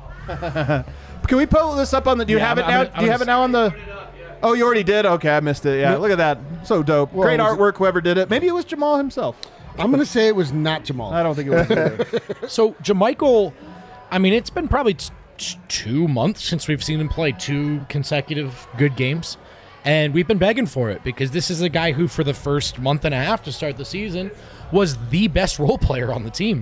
Can we pull this up on the? Do you have it now? Do you have it now on the? Oh, you already did. Okay, I missed it. Yeah, look at that. So dope. Well, great artwork. Whoever did it. Maybe it was Jamal himself. I'm going to say it was not Jamal. I don't think it was. So JaMychal, it's been probably 2 months since we've seen him play 2 consecutive good games. And we've been begging for it because this is a guy who, for the first month and a half to start the season, was the best role player on the team.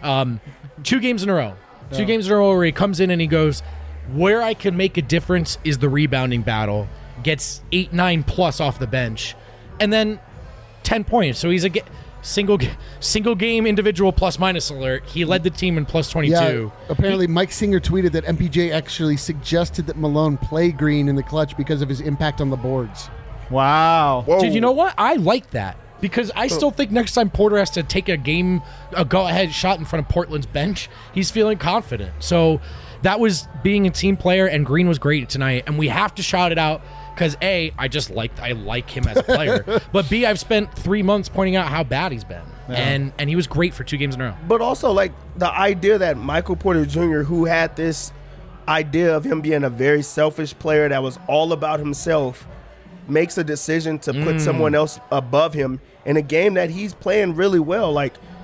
2 games in a row. 2 games in a row where he comes in and he goes, where I can make a difference is the rebounding battle. Gets 8-9 plus off the bench. And then 10 points. So he's a single game individual plus minus alert. He led the team in plus 22. Yeah, apparently Mike Singer tweeted that MPJ actually suggested that Malone play Green in the clutch because of his impact on the boards. Wow. Whoa. Dude, you know what? I like that because I still think next time Porter has to take a go-ahead shot in front of Portland's bench, he's feeling confident. So that was being a team player, and Green was great tonight, and we have to shout it out. Because A, I like him as a player, but B, I've spent 3 months pointing out how bad he's been, and he was great for 2 games in a row. But also, the idea that Michael Porter Jr., who had this idea of him being a very selfish player that was all about himself, makes a decision to put someone else above him in a game that he's playing really well.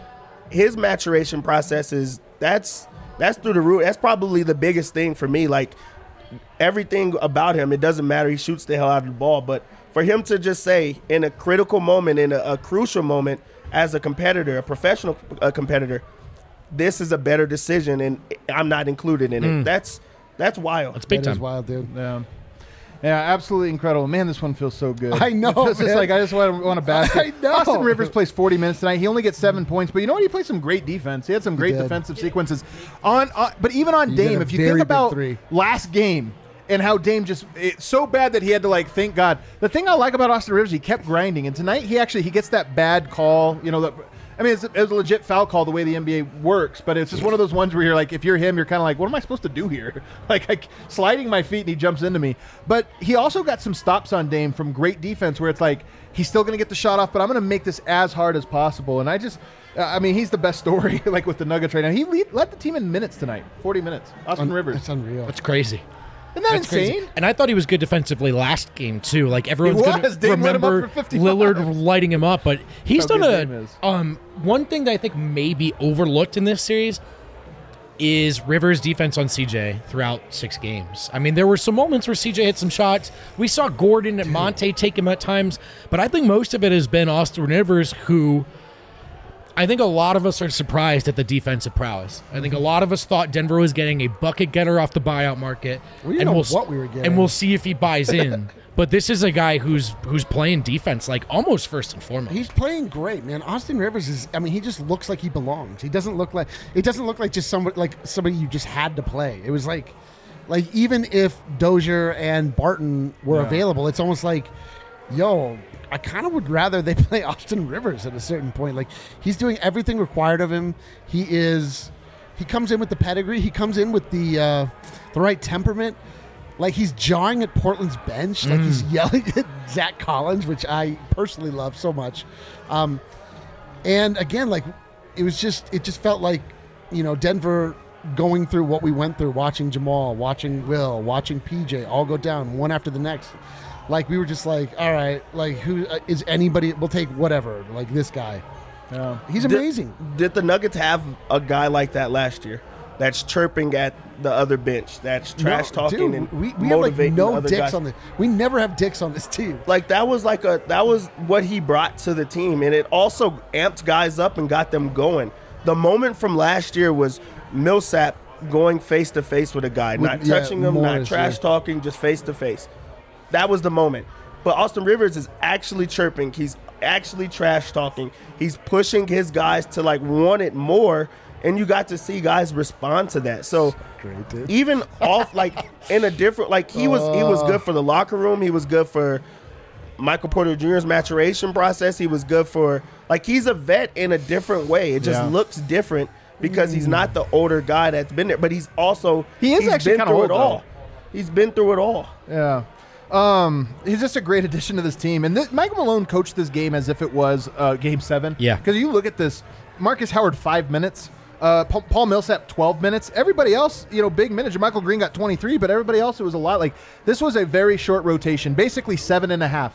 His maturation process that's through the roof. That's probably the biggest thing for me. Everything about him, it doesn't matter. He shoots the hell out of the ball. But for him to just say in a critical moment, in a crucial moment, as a competitor, a professional competitor, this is a better decision, and I'm not included in it. That's wild. That's big time. That is wild, dude. Yeah, absolutely incredible. Man, this one feels so good. I know, It's just I just want a basket. I know. Austin Rivers plays 40 minutes tonight. He only gets 7 points, but you know what? He played some great defense. He had some great defensive sequences. But even on Dame, if you think about last game and how Dame it's so bad that he had to thank God. The thing I like about Austin Rivers, he kept grinding, and tonight he gets that bad call. It was a legit foul call the way the NBA works, but it's just one of those ones where you're if you're him, you're kind of what am I supposed to do here? Sliding my feet and he jumps into me. But he also got some stops on Dame from great defense where it's he's still going to get the shot off, but I'm going to make this as hard as possible. And he's the best story with the Nuggets right now. He led the team in minutes tonight, 40 minutes. Austin Rivers. That's unreal. That's crazy. Isn't that insane? Crazy. And I thought he was good defensively last game too. Everyone's going to remember Lillard lighting him up, but he's done one thing that I think may be overlooked in this series is Rivers' defense on CJ throughout 6 games. There were some moments where CJ hit some shots. We saw Gordon and Monte take him at times, but I think most of it has been Austin Rivers, who I think a lot of us are surprised at the defensive prowess. I think a lot of us thought Denver was getting a bucket getter off the buyout market. We didn't know what we were getting. And we'll see if he buys in. But this is a guy who's playing defense like almost first and foremost. He's playing great, man. Austin Rivers is. I mean, he just looks like he belongs. He doesn't look like just somebody you just had to play. It was like even if Dozier and Barton were available, it's almost like, yo, I kind of would rather they play Austin Rivers at a certain point. Like, he's doing everything required of him. He comes in with the pedigree. He comes in with the right temperament. Like, he's jawing at Portland's bench. Like, he's yelling at Zach Collins, which I personally love so much. And again, like, it just felt like, Denver going through what we went through, watching Jamal, watching Will, watching PJ all go down one after the next. Like, we were just like, all right, like, who is anybody? We'll take whatever. Like, this guy. Yeah. He's amazing. Did the Nuggets have a guy like that last year? That's chirping at the other bench. That's trash talking and we motivating have, like, no other dicks guys. on this. We never have dicks on this team. Like, that was what he brought to the team, and it also amped guys up and got them going. The moment from last year was Millsap going face to face with a guy, not touching him, not trash talking, just face to face. That was the moment. But Austin Rivers is actually chirping. He's actually trash talking. He's pushing his guys to, like, want it more, and you got to see guys respond to that. So great, dude. Even off, like, in a different, like, he was good for the locker room. He was good for Michael Porter Jr.'s maturation process. He was good for, like, he's a vet in a different way. It just looks different because he's not the older guy that's been there, but he's also he's actually kind of old all. He's been through it all. Yeah. He's just a great addition to this team. And Michael Malone coached this game as if it was Game 7. Yeah. Because you look at this, Marcus Howard, 5 minutes. Paul Millsap, 12 minutes. Everybody else, big minutes. Michael Green got 23, but everybody else, it was a lot. Like, this was a very short rotation, basically 7.5.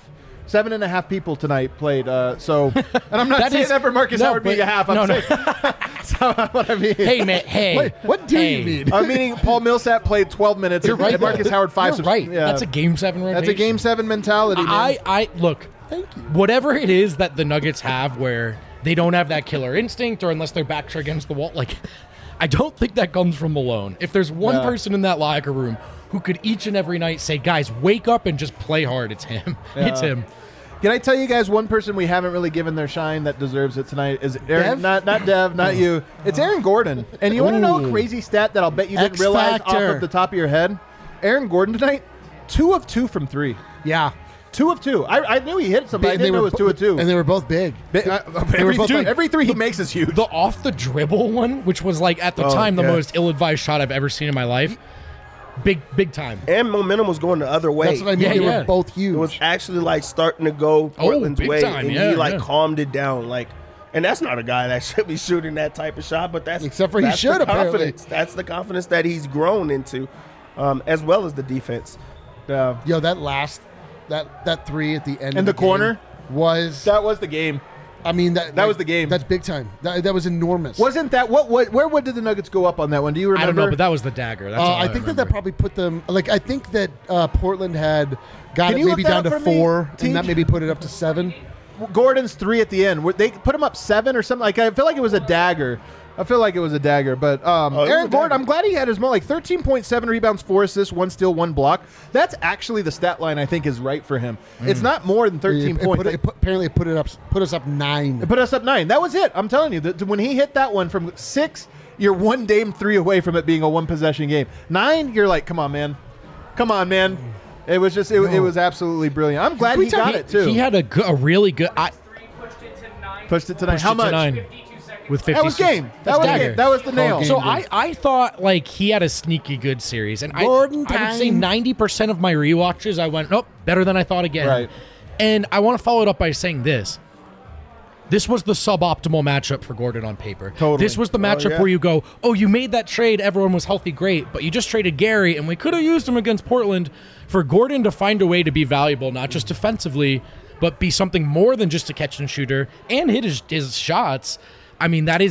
7.5 people tonight played. And I'm not saying that for Marcus Howard being a half. I'm saying that's what I mean. Hey, man. Hey. Wait, what do you mean? I'm meaning Paul Millsap played 12 minutes. You're right. And Marcus Howard 5. You're right. Yeah. That's a Game 7 rotation. That's a Game 7 mentality, man. I look. Thank you. Whatever it is that the Nuggets have where they don't have that killer instinct, or unless their backs are against the wall, like, I don't think that comes from Malone. If there's one person in that locker room who could each and every night say, guys, wake up and just play hard, it's him. Yeah. It's him. Can I tell you guys one person we haven't really given their shine that deserves it tonight is Aaron, not Dev, not you. It's Aaron Gordon. And you want to know a crazy stat that I'll bet you didn't realize off of the top of your head? Aaron Gordon tonight, 2 of 2 from 3. Yeah. 2 of 2. I knew he hit somebody. I didn't know it was 2 of 2. And they were both big. Every 3 he makes is huge. The off the dribble one, which was like at the time the most ill-advised shot I've ever seen in my life. Big time. And momentum was going the other way. That's what I mean. They were both huge. It was actually like starting to go Portland's way, time. and he calmed it down. Like, and that's not a guy that should be shooting that type of shot, but that's except for he should apparently. That's the confidence that he's grown into, as well as the defense. Yo, that last that 3 at the end in the corner was the game. I mean, that was the game. That's big time. That was enormous. Wasn't that where did the Nuggets go up on that one? Do you remember? I don't know, but that was the dagger. That's I think that probably put them. Like, I think that Portland had got it maybe down to 4, and that maybe put it up to 7. Gordon's 3 at the end. They put him up 7 or something. Like, I feel like it was a dagger. But Aaron Gordon, I'm glad he had his like 13.7 rebounds, 4 assists, 1 steal, 1 block. That's actually the stat line I think is right for him. It's not more than 13 points. Apparently, it put us up 9. It put us up 9. That was it. I'm telling you, when he hit that one from 6, you're 1 Dame 3 away from it being a 1-possession game. 9, you're like, come on, man. It was just, it was absolutely brilliant. I'm glad he got it too. He had a really good. Pushed it to 9. How much? 9. With 50. That was game. That was the nail. So I thought, like, he had a sneaky good series. And I would say 90% of my rewatches, I went, nope, better than I thought again. Right. And I want to follow it up by saying this. This was the suboptimal matchup for Gordon on paper. Totally. This was the matchup where you go, oh, you made that trade, everyone was healthy, great, but you just traded Gary, and we could have used him against Portland. For Gordon to find a way to be valuable, not just defensively, but be something more than just a catch-and-shooter and hit his shots. I mean, that's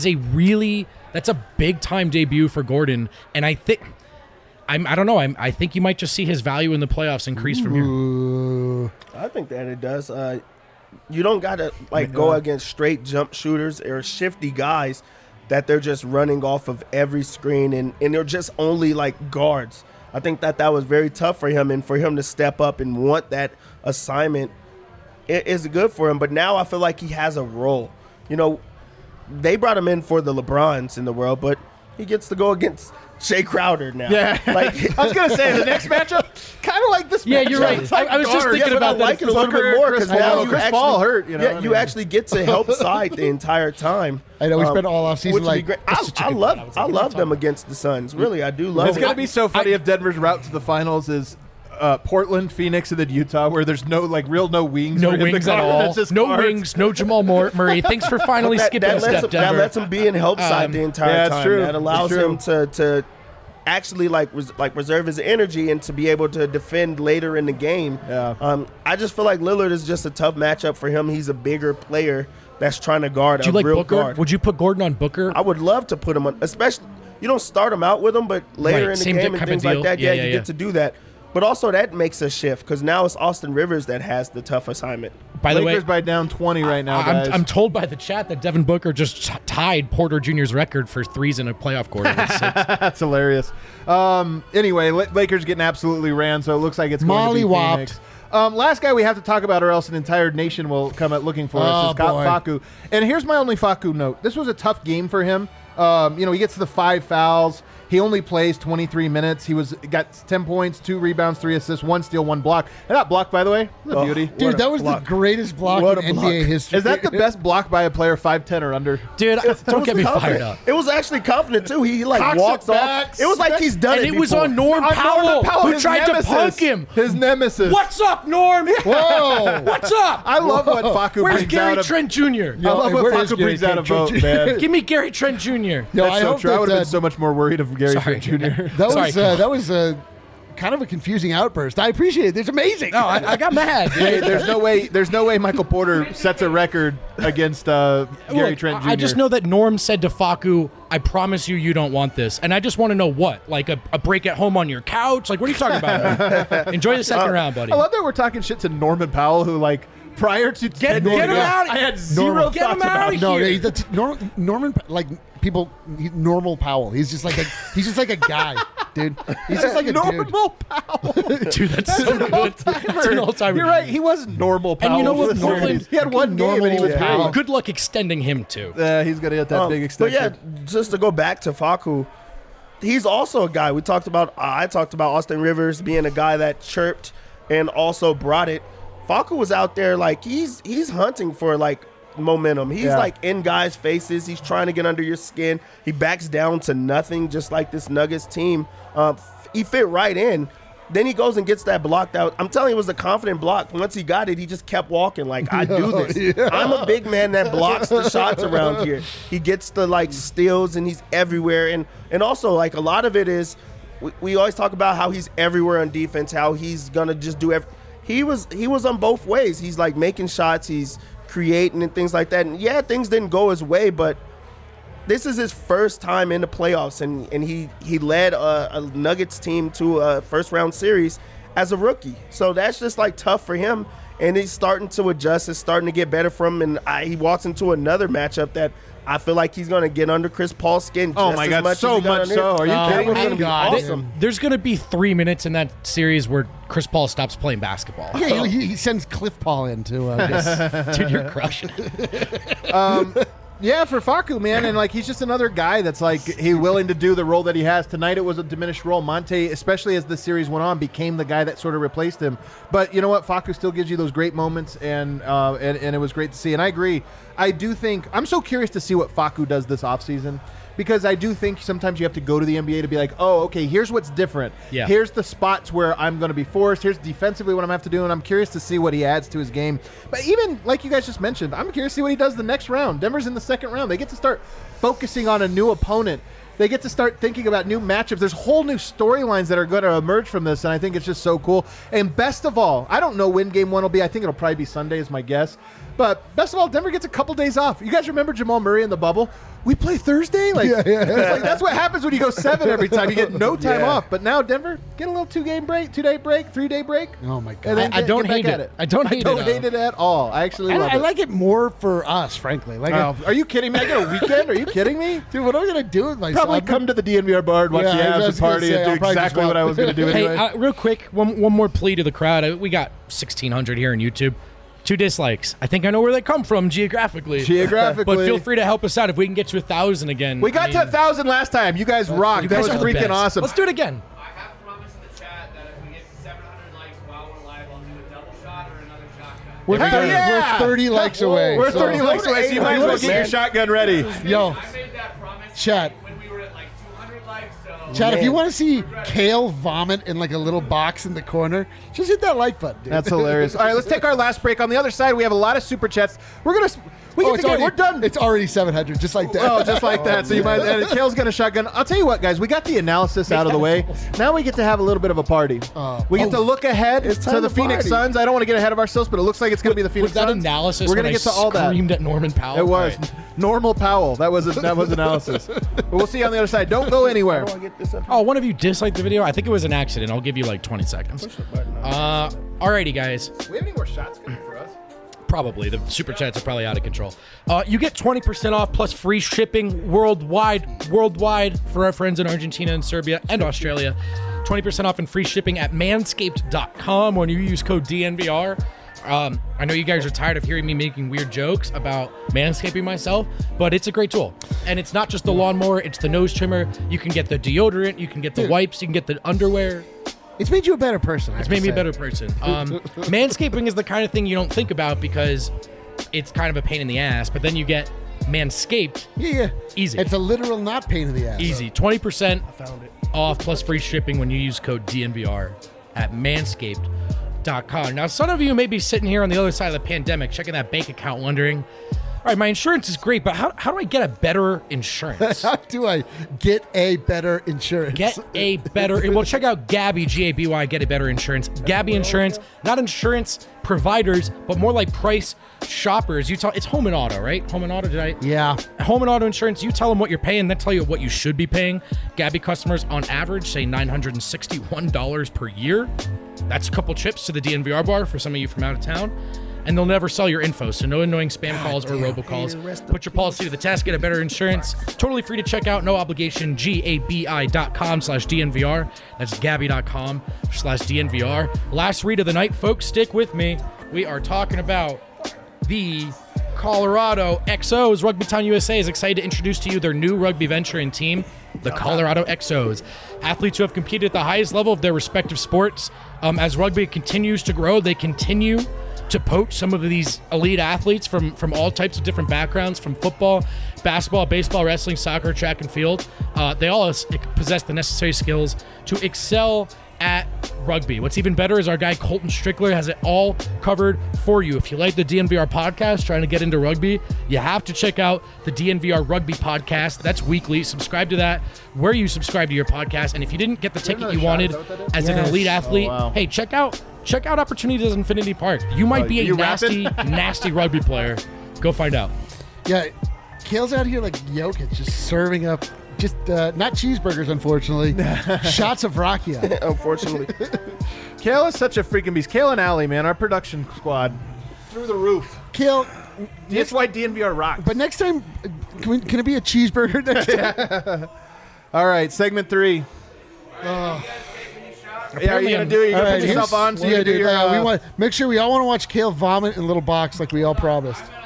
a big-time debut for Gordon, and I think, I don't know, I think you might just see his value in the playoffs increase from here. I think that it does. you don't gotta go against straight jump shooters or shifty guys that they're just running off of every screen and they're just only like guards. I think that was very tough for him, and for him to step up and want that assignment is good for him. But now I feel like he has a role. You know, they brought him in for the LeBrons in the world, but he gets to go against Jay Crowder now. Yeah, like I was gonna say the next matchup, kind of like this. Yeah, matchup. you're right. It's like I was just guards. thinking about I like that. it a little bit more because now you Chris actually Paul hurt. You know, yeah, you actually get to help side the entire time. I know we spent all off Which season would be like great. I love them against the Suns. Really, I do love It's them. gonna be so funny if Denver's route to the finals is Portland, Phoenix, and then Utah, where there's no no wings. No for him to wings at guard. all. It's just No guards. wings. No Jamal Murray. Thanks for finally skipping a step, that Denver. lets him be in help side the entire yeah, it's time. true. That allows It's true. him to actually reserve his energy and to be able to defend later in the game. Yeah. I just feel like Lillard is just a tough matchup for him. He's a bigger player that's trying to guard Would you a like real Booker? guard. Would you put Gordon on Booker? I would love to put him on, especially you don't start him out with him, but later Right, in the same game and type of things like deal. that, Yeah, you yeah. get to do that. But also that makes a shift because now it's Austin Rivers that has the tough assignment. By the Lakers way, by down 20 right now, guys. I'm told by the chat that Devin Booker just tied Porter Jr.'s record for threes in a playoff quarter. with 6. That's hilarious. Anyway, Lakers getting absolutely ran, so it looks like it's going to be Molly-whopped. Phoenix. Last guy we have to talk about, or else an entire nation will come out looking for us, is boy. Facu. And here's my only Facu note. This was a tough game for him. He gets to the 5 fouls. He only plays 23 minutes. He got 10 points, 2 rebounds, 3 assists, 1 steal, 1 block. And that block, by the way, was a beauty. Dude, that was the greatest block What in a NBA block. history. Is that the best block by a player 5'10" or under? Dude, don't get me fired Confident. up. It was actually confident too. He Cocks walks it back, off. It was like he's done And it it was before. on Norm Powell, who his tried nemesis. to punk him. His nemesis. What's up, Norm? Whoa! What's up? I love what Facu Where's brings Gary out of. Trent Jr.? I love what where is Facu Gary brings out of Trent vote, Jr.? man. Give me Gary Trent Jr. No, That's I so hope true. I would have that, been so much more worried of Gary Sorry. Trent Jr. that was kind of a confusing outburst. I appreciate it. It's amazing. No, I got mad. Hey, there's no way Michael Porter sets a record against Gary Look, Trent Jr. I just know that Norm said to Facu, I promise you don't want this. And I just want to know what? Like a break at home on your couch? Like, what are you talking about? Enjoy the second round, buddy. I love that we're talking shit to Norman Powell, who prior to Get 10 years him ago, out. I had zero Get him thoughts out about of him. here. No, Norman, normal Powell. He's just like a guy, dude. He's just like a Normal Powell. Dude, that's so good. That's an all-timer. You're right. He was normal Powell. And you know what, for the Norman- 70s. He had one game and he was Normal great. Good luck extending him, too. He's going to get that big But extension. yeah, just to go back to Facu, he's also a guy. I talked about Austin Rivers being a guy that chirped and also brought it. Facu was out there he's hunting for momentum. He's in guys' faces. He's trying to get under your skin. He backs down to nothing, just like this Nuggets team. He fit right in. Then he goes and gets that blocked out. I'm telling you, it was a confident block. Once he got it, he just kept walking I do this. Yeah. I'm a big man that blocks the shots around here. He gets the steals and he's everywhere. And also a lot of it is we always talk about how he's everywhere on defense, how he's gonna just do everything. He was on both ways. He's making shots, he's creating and things like that. And yeah, things didn't go his way, but this is his first time in the playoffs, and he led a Nuggets team to a first round series as a rookie. So that's just tough for him, and he's starting to adjust. It's starting to get better for him, and he walks into another matchup that I feel like he's going to get under Chris Paul's skin. Oh just my as God, much so as he got much under so. his. Are you kidding That was me? going to be God. awesome. There's going to be 3 minutes in that series where Chris Paul stops playing basketball. Yeah, he sends Cliff Paul in to Dude, you're crushing it. Yeah, for Facu, man, and he's just another guy that's he willing to do the role that he has. Tonight it was a diminished role. Monte, especially as the series went on, became the guy that sort of replaced him. But you know what? Facu still gives you those great moments, and it was great to see. And I agree. I do think I'm so curious to see what Facu does this offseason. Because I do think sometimes you have to go to the NBA to be oh, okay, here's what's different. Yeah. Here's the spots where I'm going to be forced. Here's defensively what I'm going to have to do, and I'm curious to see what he adds to his game. But even, like you guys just mentioned, I'm curious to see what he does the next round. Denver's in the second round. They get to start focusing on a new opponent. They get to start thinking about new matchups. There's whole new storylines that are going to emerge from this, and I think it's just so cool. And best of all, I don't know when Game 1 will be. I think it'll probably be Sunday is my guess. But best of all, Denver gets a couple days off. You guys remember Jamal Murray in the bubble? We play Thursday? It's like, that's what happens when you go 7 every time. You get no time off. But now Denver, get a little 2-day break, 3-day break. Oh, my God. And then I don't hate at it. I don't hate it at all. I actually love it. I like it more for us, frankly. Like, Are you kidding me? I get a weekend? Are you kidding me? dude, what am I going to do with myself? Probably come to the DNVR bar and watch the I was Avs gonna party say, and I'll do probably exactly just what I was going to do anyway. Hey, real quick, one more plea to the crowd. We got 1,600 here on YouTube. 2 dislikes. I think I know where they come from geographically. But feel free to help us out if we can get to 1,000 again. We got to 1,000 last time. You guys rocked. You guys that was are the freaking best. awesome. Let's do it again. I have promised in the chat that if we get to 700 likes while we're live, I'll do a double shot or another shotgun. We're 30 likes away. We're so- 30 likes away, so you might as well get your shotgun ready. Yo, I made that promise Chat. when we were at like 200 likes, so... Chad, if you want to see Kale vomit in like a little box in the corner, just hit that like button, dude. That's hilarious. All right, let's take our last break. On the other side, we have a lot of super chats. We're done. It's already 700, just like that. Oh, just like that. So you might. And Kale's got a shotgun. I'll tell you what, guys. We got the analysis out of the way. Now we get to have a little bit of a party. We get to look ahead to the Phoenix Suns. I don't want to get ahead of ourselves, but it looks like it's going to be the Phoenix Was that Suns. analysis? We're When gonna I get to all that. screamed at Norman Powell. It was All right. normal Powell. That was analysis. But we'll see you on the other side. Don't go anywhere. How do I get this up? Oh, one of you disliked the video? I think it was an accident. I'll give you like 20 seconds. Alrighty, guys. We have any more shots coming for us? Probably. The super chats are probably out of control. You get 20% off plus free shipping worldwide for our friends in Argentina and Serbia and Australia. 20% off and free shipping at manscaped.com when you use code DNVR. I know you guys are tired of hearing me making weird jokes about manscaping myself, but it's a great tool. And it's not just the lawnmower, it's the nose trimmer. You can get the deodorant, you can get the wipes, you can get the underwear. It's made you a better person. It's made me a better person. Manscaping is the kind of thing you don't think about because it's kind of a pain in the ass, but then you get Manscaped. Yeah. Easy. It's a literal not pain in the ass. Easy. 20% off plus free shipping when you use code DNVR at manscaped.com. Now, some of you may be sitting here on the other side of the pandemic, checking that bank account, wondering, all right, my insurance is great, but how do I get a better insurance? How do I get a better insurance? Get a better... Well, check out Gabi, G-A-B-Y, Get a Better Insurance. Gabi Insurance, not insurance providers, but more like price shoppers. It's home and auto, right? Home and auto, Yeah. Home and auto insurance, you tell them what you're paying, they tell you what you should be paying. Gabi customers, on average, say $961 per year. That's a couple trips to the DNVR bar for some of you from out of town. And they'll never sell your info, so no annoying spam calls or robocalls. Put your policy to the test, get a better insurance. Totally free to check out, no obligation, gabi.com/DNVR. That's gabi.com/DNVR. Last read of the night, folks, stick with me. We are talking about the Colorado XOs. Rugby Town USA is excited to introduce to you their new rugby venture and team, the Colorado XOs. Athletes who have competed at the highest level of their respective sports. As rugby continues to grow, they continue to poach some of these elite athletes from all types of different backgrounds, from football, basketball, baseball, wrestling, soccer, track and field. They all possess the necessary skills to excel at rugby. What's even better is our guy Colton Strickler has it all covered for you. If you like the DNVR podcast, trying to get into rugby, you have to check out the DNVR Rugby podcast. That's weekly. Subscribe to that where you subscribe to your podcast. And if you didn't get the ticket you wanted as an elite athlete, hey, check out Opportunities Infinity Park. You might be a nasty rugby player. Go find out. Yeah, Kale's out here like Jokic, just serving up, not cheeseburgers, unfortunately, shots of Rakia. Unfortunately. Kale is such a freaking beast. Kale and Allie, man, our production squad, through the roof. Kale, That's why DNVR rocks. but next time, can it be a cheeseburger next time? All right, segment 3. Yeah, are you gonna do it? You're gonna put yourself on, so you do your. we want make sure we all want to watch Kale vomit in a little box like we all promised. TJ,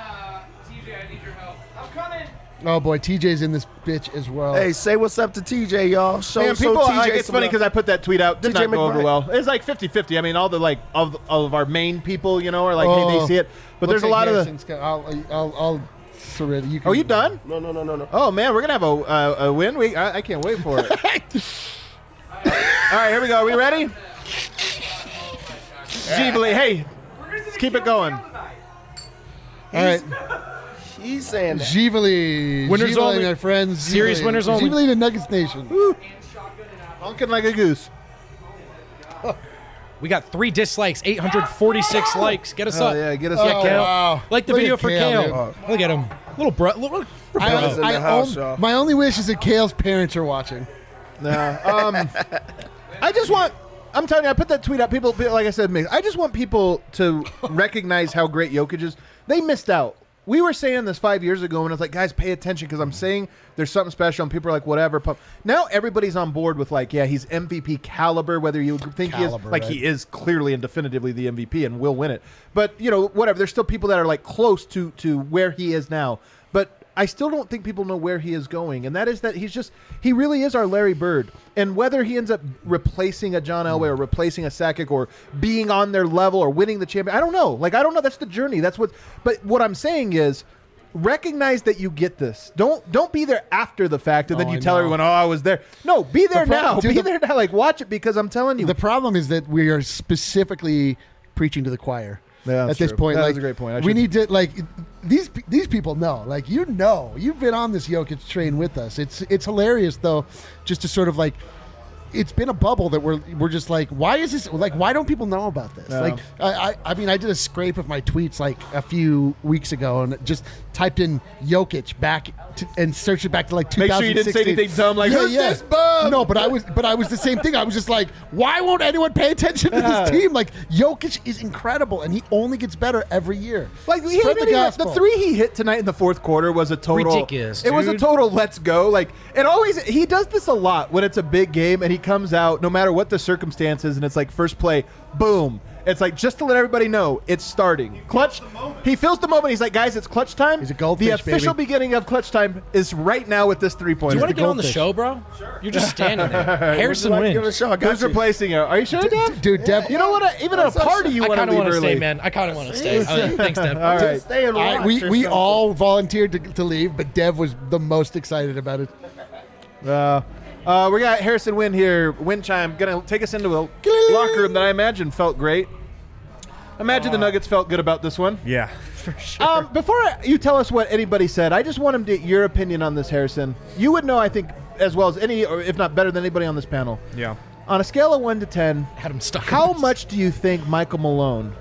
I need your help. I'm coming. Oh boy, TJ's in this bitch as well. Hey, say what's up to TJ, y'all. Show people, TJ like, it's some funny love. because I put that tweet out. Did TJ not go over McBride. well. It's like 50-50. I mean, all the all of our main people, are like, hey, they see it. But there's a lot of the. I'll surrender. You can, Oh, you done? No. Oh man, we're gonna have a win. I can't wait for it. All right, here we go. Are we ready? Givali, hey, let's keep it going. All right, He's saying that. Givali, Winners Givali, only. my friends. Serious Givali. winners only. Givali to Nuggets Nation. Honking like a goose. We got 3 dislikes, 846 likes. Get us up. Yeah, get us Yeah, up. Kale. Wow. Like the Look video at for Kale, Kale. dude. Look at him. Little bro. Little Brothers in the house, y'all. My only wish is that Kale's parents are watching. No. I just want. I'm telling you, I put that tweet out. People, like I said, I just want people to recognize how great Jokic is. They missed out. We were saying this 5 years ago, and I was like, guys, pay attention because I'm saying there's something special, and people are like, whatever. Now everybody's on board with like, yeah, he's MVP caliber. Whether you think he is, like, right? he is clearly and definitively the MVP and will win it. But whatever. There's still people that are like close to where he is now. But I still don't think people know where he is going, and that is that he really is our Larry Bird. And whether he ends up replacing a John Elway or replacing a Sakic or being on their level or winning the champion, I don't know. Like, I don't know. That's the journey. But what I'm saying is, recognize that you get this. Don't be there after the fact and then you tell everyone, I was there. No, be there now. Be there now. Like, watch it, because I'm telling you. The problem is that we are specifically preaching to the choir. Yeah, at this point, that's a great point. We need to these people know. Like, you've been on this Jokic train with us. It's hilarious though, just to sort of like. It's been a bubble that we're just like, why is this, like, why don't people know about this? Yeah. Like, I mean, I did a scrape of my tweets like a few weeks ago and just typed in Jokic and searched it back to like 2016. Make sure you didn't say anything dumb like, who's this bum? No, but I was the same thing. I was just like, why won't anyone pay attention to this team? Like, Jokic is incredible, and he only gets better every year. Like, the 3 he hit tonight in the fourth quarter was a total ridiculous. It was a total let's go. Like, he does this a lot when it's a big game and he comes out no matter what the circumstances, and it's like first play, boom. It's like, just to let everybody know, it's starting. Clutch. He feels the moment. He's like, guys, it's clutch time. He's a goldfish, The official baby. beginning of clutch time is right now with this 3-pointer. Do you want to get on the goldfish. show, bro? Sure. You're just standing there. Harrison Give it a wins. shot. I got Who's you. replacing you? Are you sure, Dev? Dude, Dev, You know what? Even at a party, you I want kind to of leave want to early. stay, man. I kind of want to stay. Thanks, Dev. All right. Stay and watch. we or we something. all volunteered to leave, but Dev was the most excited about it. We got Harrison Wynn here. Wind chime gonna take us into a locker room that I imagine felt great. Imagine the Nuggets felt good about this one. Yeah, for sure. Before you tell us what anybody said, I just want him to get your opinion on this, Harrison. You would know, I think, as well as any, or if not better than anybody on this panel. Yeah. On a scale of 1 to 10, Had him stuck. how much do you think Michael Malone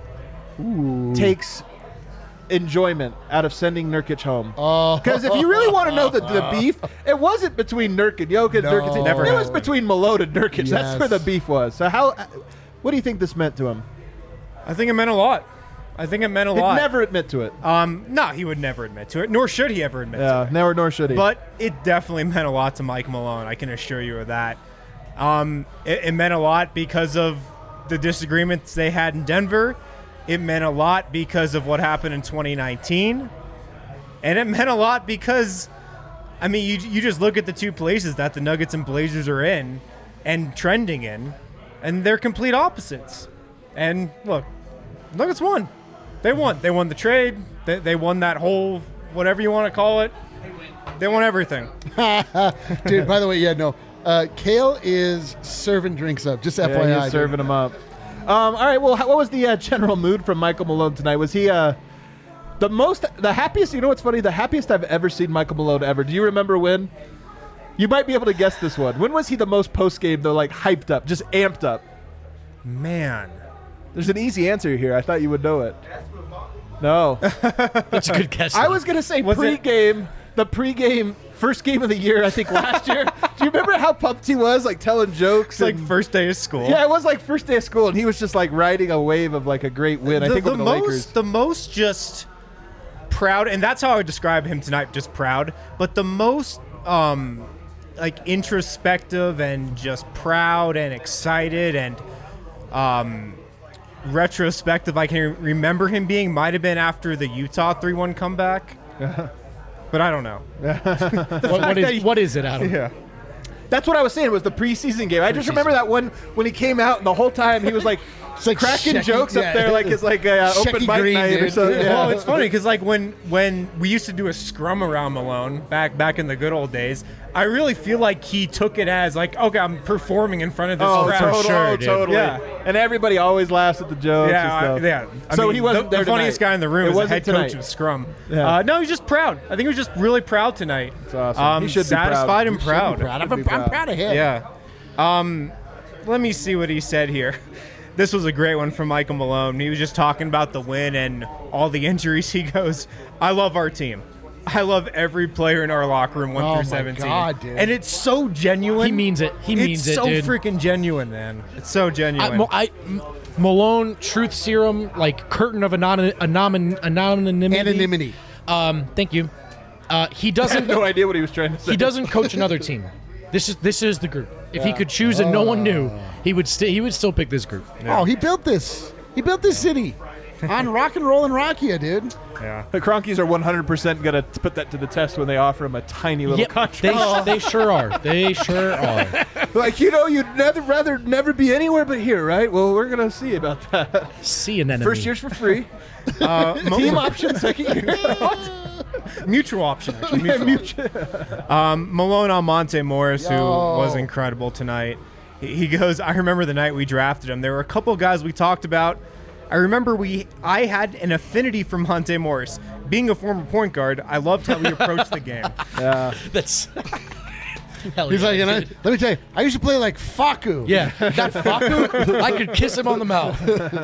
takes enjoyment out of sending Nurkic home? Because if you really want to know the beef, it wasn't between Nurk and Jokic. No. Nurkic Never it was has between Malone and Nurkic. Yes. That's where the beef was. So what do you think this meant to him? I think it meant a lot. He'd He'd never admit to it. No, he would never admit to it, nor should he ever admit to Yeah, it. nor should he. But it definitely meant a lot to Mike Malone. I can assure you of that. It meant a lot because of the disagreements they had in Denver. It meant a lot because of what happened in 2019. And it meant a lot because, I mean, you just look at the two places that the Nuggets and Blazers are in and trending in, and they're complete opposites. And look, Nuggets won. They won. They won the trade. They won that whole, whatever you want to call it. They won everything. Dude, by the way, Kale is serving drinks up. Just FYI. Yeah, he's dude. serving them up. All right. Well, what was the general mood from Michael Malone tonight? Was he the happiest? You know what's funny? The happiest I've ever seen Michael Malone ever. Do you remember when? You might be able to guess this one. When was he the most post game though, like hyped up, just amped up? Man. There's an easy answer here. I thought you would know it. No. That's a good guess. I was gonna say pregame. The pregame first game of the year, I think last year. Do you remember how pumped he was, like telling jokes? It's like first day of school. Yeah, it was like first day of school, and he was just like riding a wave of like a great win. I think over the Lakers. The most just proud, and that's how I would describe him tonight, just proud. But the most like introspective and just proud and excited and retrospective I can remember him being might have been after the Utah 3-1 comeback. But I don't know. What is it, Adam? Yeah. That's what I was saying was the preseason game. I just remember that one when he came out and the whole time he was like like cracking Shecky- jokes yeah. up there like his like open Shecky mic Green, night or dude. something. Yeah. Yeah. Well, it's funny because like when we used to do a scrum around Malone back in the good old days, I really feel like he took it as like, okay, I'm performing in front of this crowd. Totally. Yeah. And everybody always laughs at the jokes. Yeah, and stuff. yeah. So he wasn't the there funniest tonight. guy in the room It is the wasn't head tonight. coach of Scrum. Yeah. No, he's just proud. I think he was just really proud tonight. That's awesome. He should be satisfied proud. and proud. I'm proud of him. proud. I'm proud of him. Yeah. Let me see what he said here. This was a great one from Michael Malone. He was just talking about the win and all the injuries. He goes, I love our team. I love every player in our locker room, 1 through 17. God, dude. And it's so genuine. He means it. He means it, dude. It's so freaking genuine, man. It's so genuine. Malone, truth serum, like curtain of anonymity. Anonymity. Thank you. He I doesn't. had no idea what he was trying to say. He doesn't coach another team. This is the group. If he could choose and no one knew, he would still pick this group. Oh, he built this. He built this city on rock and roll and Rockia, dude. Yeah. The Cronkies are 100% going to put that to the test when they offer him a tiny little contract. They sure are. They sure are. Like, you'd rather never be anywhere but here, right? Well, we're going to see about that. See an enemy. First year's for free. Team option, second year. Mutual option, actually. Malone on Monte Morris, who was incredible tonight. He goes, I remember the night we drafted him. There were a couple guys we talked about. I remember I had an affinity for Monte Morris. Being a former point guard, I loved how he approached the game. Yeah. That's. Hell He's yeah, like, dude. let me tell you, I used to play like Faku. Yeah, that Faku, I could kiss him on the mouth.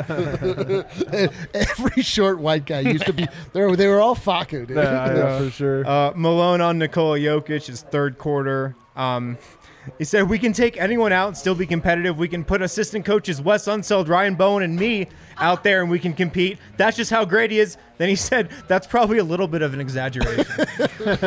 Every short white guy used to be. They were all Faku, dude. Yeah, for sure. Malone on Nikola Jokic, his third quarter. He said, we can take anyone out and still be competitive. We can put assistant coaches Wes Unseld, Ryan Bowen, and me out there, and we can compete. That's just how great he is. Then he said, that's probably a little bit of an exaggeration. But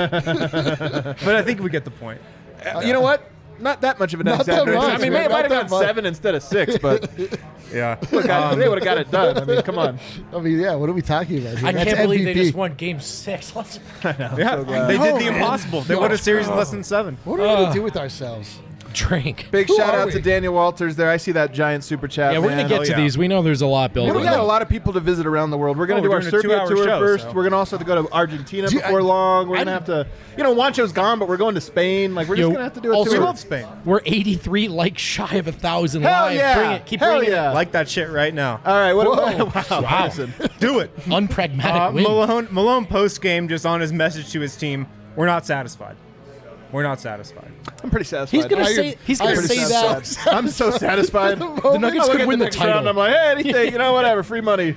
I think we get the point. You know what? Not that much of an Not that exaggeration. much, I mean, man. they might Not have that gone much. 7 instead of 6, but Yeah. they would have got it done. I mean, come on. I mean, yeah. What are we talking about here? I That's can't believe they MVP. just won Game 6. Let's. Yeah, they did the impossible. They won a series in less than 7. What are we going to do with ourselves? Drink. Big Who shout are out we? to Daniel Walters there. I see that giant super chat. Yeah, we're gonna man. get to these. We know there's a lot built. We got a lot of people to visit around the world. We're going to do we're our doing a Serbia 2-hour tour show, first. so. We're going to also go to Argentina Dude, before long. We're going to have to, Juancho's gone, but we're going to Spain. Like, we're just going to have to do a also- We tour. love Spain. We're 83 likes shy of 1,000 Hell live. yeah. Bring it. Keep Hell bringing yeah. Like that shit right now. All right. Wow. Wow. Listen. Do it. it. Unpragmatic win. Malone post-game just on his message to his team, we're not satisfied. We're not satisfied. I'm pretty satisfied. He's gonna I- say. He's gonna I- say pretty that. satisfied. I'm so satisfied. The Nuggets I look could at win the next title. round, I'm like, hey, anything, whatever, free money.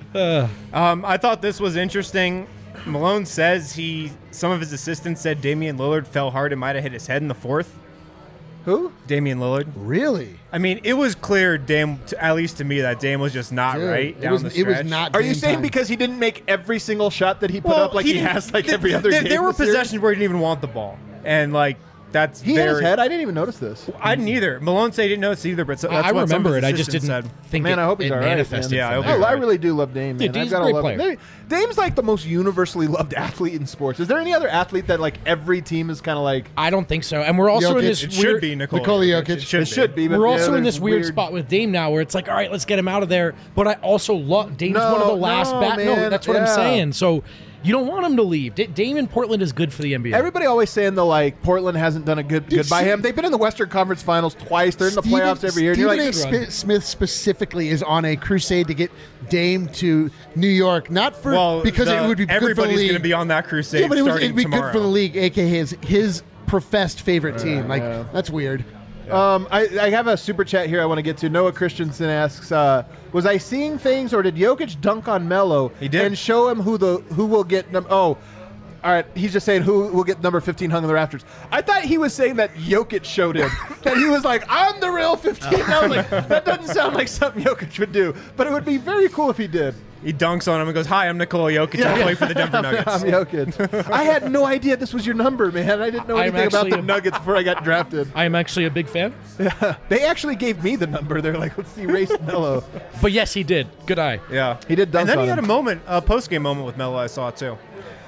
I thought this was interesting. Malone says some of his assistants said Damian Lillard fell hard and might have hit his head in the fourth. Who? Damian Lillard. Really? I mean, it was clear, at least to me, that Dame was just not Dude, right it down was, the it stretch. was not. Are you game saying time. because he didn't make every single shot that he put up like he didn't- has like every other game? There were this series? possessions where he didn't even want the ball, and like that's He hit very. his head. I didn't even notice this. I didn't either. Malone said he didn't notice either, but that's I what some of remember his it. I just assistants didn't said. think Man, it, I hope he's it all right, manifested. man. Yeah, I from hope he's that. I really do love Dame, man. Yeah, Dame's I've got a great love player. him. Dame's like the most universally loved athlete in sports. Is there any other athlete that like every team is kind of like? I don't think so. And we're also in Jokic, this It weird. should be Nikola Jokic. It should be. but We're yeah, also in there's this weird spot with Dame now, where it's like, all right, let's get him out of there. But I also love Dame's No, one of the last. no, No, man, that's what I'm yeah. saying. So you don't want him to leave. Dame in Portland is good for the NBA. Everybody always saying though, like Portland hasn't done a good by him. They've been in the Western Conference Finals twice. They're in the playoffs every year. And you're Stephen like, A. Smith specifically is on a crusade to get Dame to New York, not for because it would be good for the everybody's league. going to be on that crusade Yeah, but starting it'd be tomorrow. good for the league, aka his professed favorite team. Like that's weird. I have a super chat here I want to get to. Noah Christensen asks, was I seeing things or did Jokic dunk on Melo? He did. And show him who will get all right, he's just saying who will get number 15 hung in the rafters. I thought he was saying that Jokic showed him. That he was like, I'm the real 15. And I was like, that doesn't sound like something Jokic would do. But it would be very cool if he did. He dunks on him and goes, "Hi, I'm Nikola Jokic. I play for the Denver Nuggets." I'm Jokic. I had no idea this was your number, man. I didn't know I'm anything about actually the Nuggets before I got drafted. I am actually a big fan. They actually gave me the number. They're like, let's erase Melo. But yes, he did. Good eye. Yeah, He did dunk And then on he had him. a post-game moment with Melo. I saw too.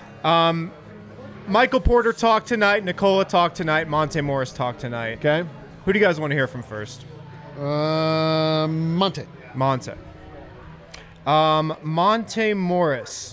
Michael Porter talked tonight. Nikola talked tonight. Monte Morris talked tonight. Okay. Who do you guys want to hear from first? Monte. Monte. Monte Morris.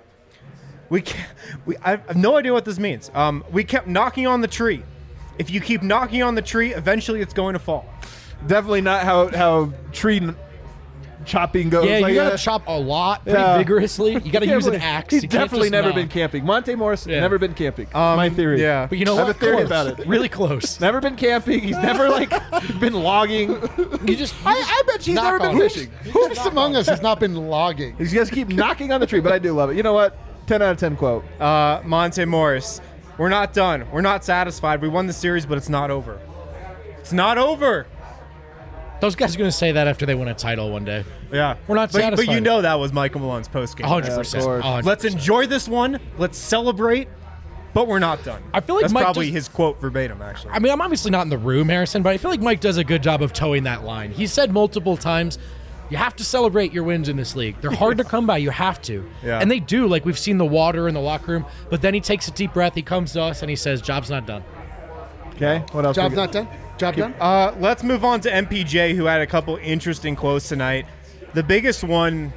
I have no idea what this means. We kept knocking on the tree. If you keep knocking on the tree, eventually it's going to fall. Definitely not how tree chopping goes. Yeah, like, you gotta chop a lot pretty vigorously. You gotta use an axe. He's You can't definitely just never knock. been camping. Monte Morris Yeah. never been camping. My theory. Yeah. But you know I have what? a theory Close. about it. Really close. Never been camping. He's never been logging. You just I bet he's never been fishing. Who's among us has not been logging? He's just keep knocking on the tree, but I do love it. You know what? 10 out of 10 quote. Monte Morris, we're not done. We're not satisfied. We won the series, but it's not over. It's not over. those guys are gonna say that after they win a title one day. Yeah. We're not but satisfied. you know that was Michael Malone's postgame. 100%. course. 100%. Let's enjoy this one. Let's celebrate, but we're not done. I feel like that's Mike probably just- his quote verbatim, actually. I mean, I'm obviously not in the room, Harrison, but I feel like Mike does a good job of towing that line. He said multiple times, you have to celebrate your wins in this league. They're hard to come by. You have to. Yeah. And they do. Like, we've seen the water in the locker room, but then he takes a deep breath. He comes to us and he says, job's not done. Okay. What else? Job we got? not done? Job done? Let's move on to MPJ, who had a couple interesting quotes tonight. The biggest one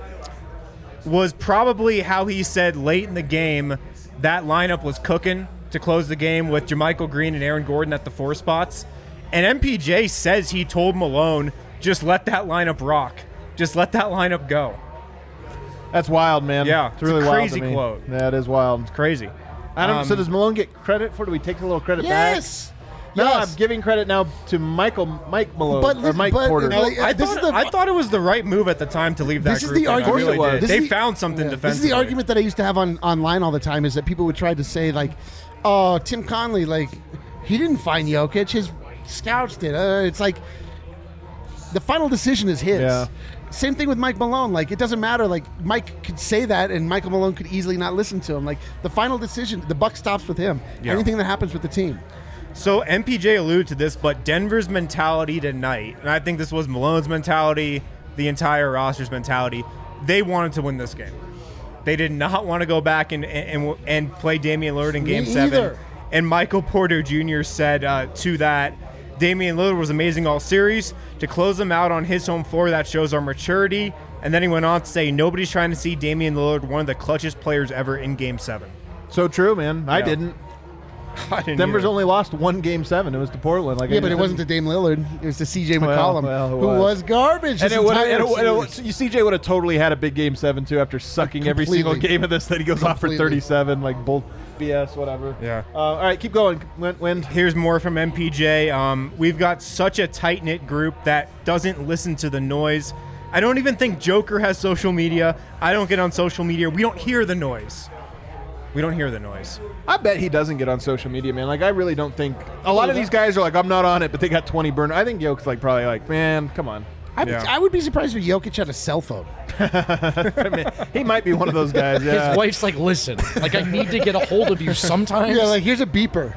was probably how he said late in the game that lineup was cooking to close the game with Jermichael Green and Aaron Gordon at the 4 spots. And MPJ says he told Malone, just let that lineup rock. Just let that lineup go. That's wild, man. Yeah, it's really it's a wild. crazy to me. quote. Yeah, it is wild. Crazy. I don't. So does Malone get credit for? Do we take a little credit Yes. back? No, Yes. I'm giving credit now to Mike Malone But or Mike but, Porter. like, I this is thought, the- I thought it was the right move at the time to leave that This is group the in. I argument- really Of course it did. was. They This is- found something This is defensively. the argument that I used to have online all the time, is that people would try to say, like, oh, Tim Conley, like, he didn't find Jokic. His scouts did. It's like the final decision is his. Yeah. Same thing with Mike Malone. Like, it doesn't matter. Like, Mike could say that, and Michael Malone could easily not listen to him. Like, the final decision, the buck stops with him. Yeah. Anything that happens with the team. So MPJ alluded to this, but Denver's mentality tonight, and I think this was Malone's mentality, the entire roster's mentality, they wanted to win this game. They did not want to go back and play Damian Lillard in Game 7. either. And Michael Porter Jr. said to that, Damian Lillard was amazing all series. To close them out on his home floor, that shows our maturity. And then he went on to say, nobody's trying to see Damian Lillard one of the clutchest players ever in Game 7. So true, man. I Yeah. didn't. I didn't Denver's either. only lost one Game 7. It was to Portland. Like, Yeah, but it wasn't to Dame Lillard. It was to CJ McCollum, well, it who was. was garbage. And this it would entire have. series. CJ would have totally had a big Game 7 too after sucking every single Completely. game of this. That he goes off for Completely. 37, like bull BS, whatever. Yeah. All right, keep going. Wind. Here's more from MPJ. We've got such a tight-knit group that doesn't listen to the noise. I don't even think Joker has social media. I don't get on social media. We don't hear the noise. We don't hear the noise. I bet he doesn't get on social media, man. Like, I really don't think a lot of these guys are like, I'm not on it, but they got 20 burned. I think Jokic's like probably like, man, come on. I would be surprised if Jokic had a cell phone. I mean, he might be one of those guys. Yeah. His wife's like, listen, like, I need to get a hold of you sometimes. Yeah, like, here's a beeper.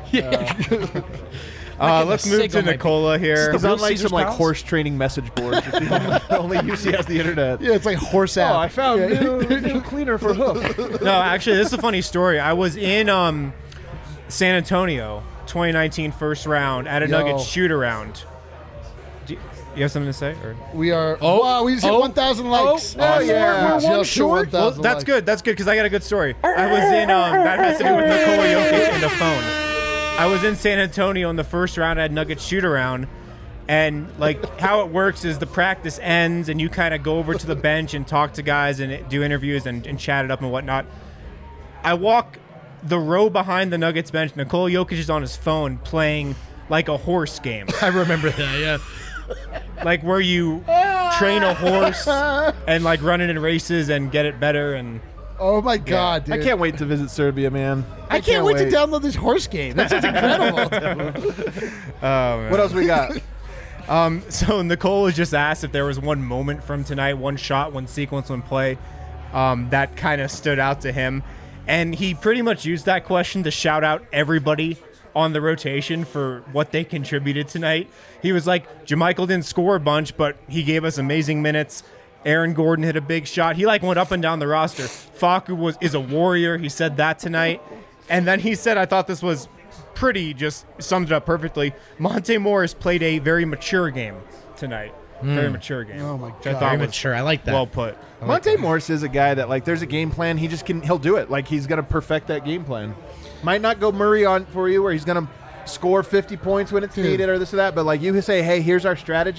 Let's move to Nicola here. He's real on like Caesar's some like Palace? horse training message boards. Only UC has the internet. Yeah, it's like horse app. Oh, I found new cleaner for hoof. No, actually, this is a funny story. I was in San Antonio, 2019 first round at a Nuggets shoot-around. Do you have something to say? Or? We are. Wow, we just hit 1,000 likes. Oh, yeah. We're one short. Well, that's good. That's good because I got a good story. I was in that has to do with Nikola Jokic and the phone. I was in San Antonio in the first round at Nuggets shoot around, and like how it works is the practice ends and you kind of go over to the bench and talk to guys and do interviews and chat it up and whatnot. I walk the row behind the Nuggets bench. Nikola Jokic is on his phone playing like a horse game. I remember that, yeah. Like where you train a horse and like run it in races and get it better and Oh my god, dude! I can't wait to visit Serbia, man. I can't wait to download this horse game. That sounds incredible. What else we got? So Nicole was just asked if there was one moment from tonight, one shot, one sequence, one play that kind of stood out to him. And he pretty much used that question to shout out everybody on the rotation for what they contributed tonight. He was like, Jermichael didn't score a bunch, but he gave us amazing minutes. Aaron Gordon hit a big shot. He went up and down the roster. Facu is a warrior. He said that tonight. And then he said, I thought this was pretty, just summed it up perfectly. Monte Morris played a very mature game tonight. Very mature game. Oh my which I God. thought Very was mature. I like that. well put. Monte Morris is a guy that like there's a game plan. He just he'll do it. Like he's gonna perfect that game plan. Might not go Murray on for you where he's gonna score 50 points when it's needed or this or that, but like you say, hey, here's our strategy.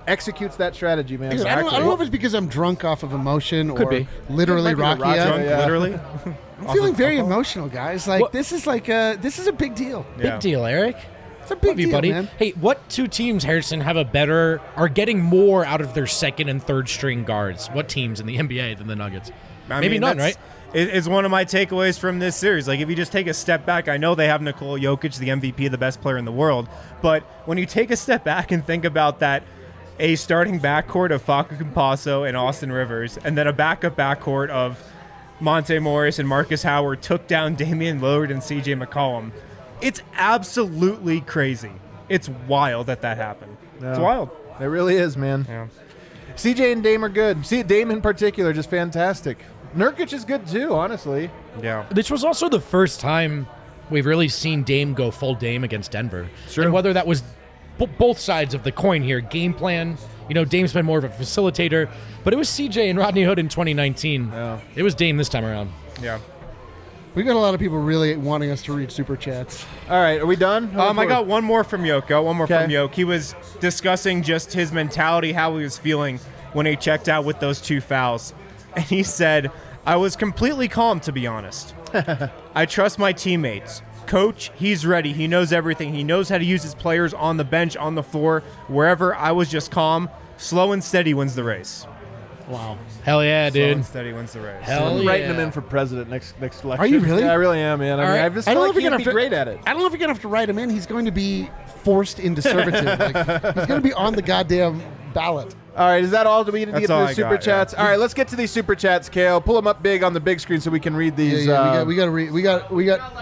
executes that strategy, man. Dude, I don't know if it's because I'm drunk off of emotion Could or be. literally It might be the Rakia. Rakia, yeah. Literally. I'm feeling very emotional, guys. Like this is a big deal. Big deal, Eric. It's a big Love you, deal, buddy. man. Hey, what two teams, Harrison, are getting more out of their second and third string guards? What teams in the NBA than the Nuggets? Maybe none, right? It's one of my takeaways from this series. Like, if you just take a step back, I know they have Nikola Jokic, the MVP, the best player in the world. But when you take a step back and think about that, a starting backcourt of Facu Campazzo and Austin Rivers, and then a backup backcourt of Monte Morris and Marcus Howard took down Damian Lillard and CJ McCollum. It's absolutely crazy. It's wild that happened. Yeah. It's wild. It really is, man. Yeah. CJ and Dame are good. See, Dame in particular, just fantastic. Nurkic is good too, honestly. Yeah. This was also the first time we've really seen Dame go full Dame against Denver. True. And whether that was both sides of the coin here, game plan, Dame's been more of a facilitator, but it was CJ and Rodney Hood in 2019. Yeah. It was Dame this time around. Yeah. We got a lot of people really wanting us to read super chats. All right, are we done? I got one more from Yoko. One more Okay. from Yoke. He was discussing just his mentality, how he was feeling when he checked out with those 2 fouls. And he said, I was completely calm, to be honest. I trust my teammates. Coach, he's ready. He knows everything. He knows how to use his players on the bench, on the floor, wherever. I was just calm. Slow and steady wins the race. Wow. Hell yeah, Slow dude. and steady wins the race. Hell I'm yeah. writing him in for president next election. Are you really? Yeah, I really am, man. I right. just I feel don't know like if you're he'd gonna be have to, great at it. I don't know if you're gonna have to write him in. He's going to be forced into servitude. He's going to be on the goddamn ballot. All right, is that all? Do we need to That's get to all the I super got, chats? yeah. All right, let's get to these super chats, Kale. Pull them up big on the big screen so we can read these. We got to read. We got.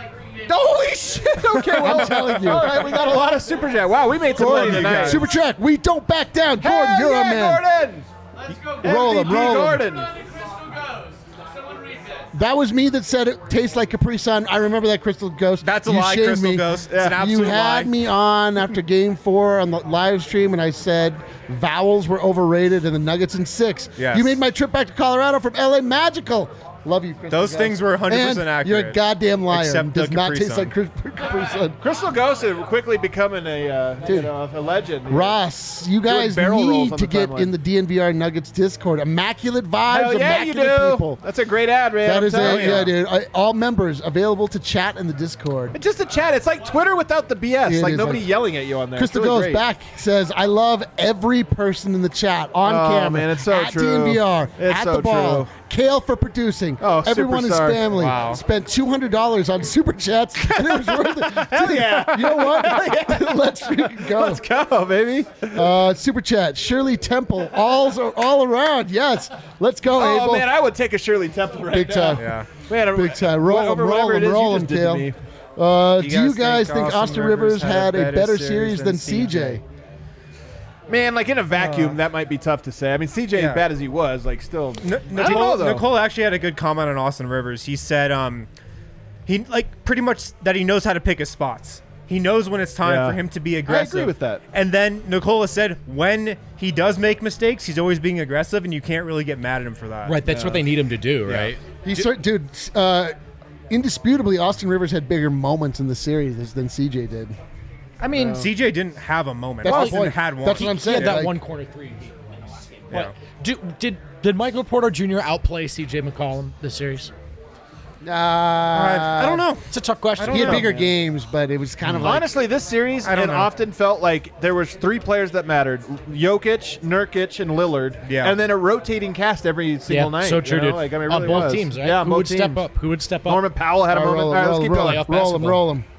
Holy shit! Okay, well, I'm telling you. All right, we got a lot of super chat. Wow, we made some money tonight. Super chat. We don't back down. Gordon, Hell you're yeah, a man. Gordon! Let's go. Roll him, MVP roll him. Gordon. Crystal goes. Someone read this. That was me that said it tastes like Capri Sun. I remember that, Crystal Ghost. That's a You lie, shamed Crystal me. Ghost. It's an You absolute had lie. me on after Game 4 on the live stream, and I said vowels were overrated and the Nuggets in 6. Yes. You made my trip back to Colorado from LA magical. Love you, Crystal Those Ghost. things were 100% And accurate. You're a goddamn liar. Except It does the not Capri taste Sun. like Capri Sun. Crystal Ghost is quickly becoming a Dude. a legend. Ross, you guys barrel rolls need on to the get timeline. in the DNVR Nuggets Discord. Immaculate vibes, Hell yeah, you immaculate do. people. That's a great ad, man. That I'm is telling it, you. yeah, dude. All members available to chat in the Discord. It's just a chat. It's like Twitter without the BS. It Like is nobody like- yelling at you on there. Crystal It's really Goes great. back says, I love every person in the chat on Oh, camera. man, it's so at true. DNVR, It's at so the ball. true. Kale for producing. Oh, Everyone in his superstar. family Wow. spent $200 on super chats, and it was worth it. Hell yeah. You know what? Let's freaking go. Let's go, baby. Super chat. Shirley Temple, all around. Yes. Let's go, Oh, Abel. man, I would take a Shirley Temple right Big now. time. Yeah. Man, Big time. Roll over him, roll whatever it him, is roll you him, just did to Kale. me. Do you guys think Austin Rivers had a better series than CJ? Man, like in a vacuum, that might be tough to say. I mean, CJ, Yeah. as bad as he was, like still. I don't know, Nicole, though. Nicole actually had a good comment on Austin Rivers. He said he like pretty much that he knows how to pick his spots. He knows when it's time Yeah. for him to be aggressive. with that. And then Nicola said when he does make mistakes, he's always being aggressive, and you can't really get mad at him for that. Right, that's what they need him to do, right? Dude, indisputably, Austin Rivers had bigger moments in the series than CJ did. I mean, CJ didn't have a moment. That's the Austin point. had one. That's what I'm he saying. had that like- one corner three in the last game. Yeah. But did Michael Porter Jr. outplay C.J. McCollum this series? I don't know. It's a tough question. I don't He had know. bigger games, but it was kind of like Honestly, this series I don't know. often felt like there was 3 players that mattered: Jokic, Nurkic, and Lillard. Yeah. And then a rotating cast every single night. so true, you know? dude. Like, I mean, it on really both was. teams, right? Yeah, Who both would step teams. up? Who would step up? Norman Powell had a moment. All right, let's keep going. Playoff roll him, basketball. roll him.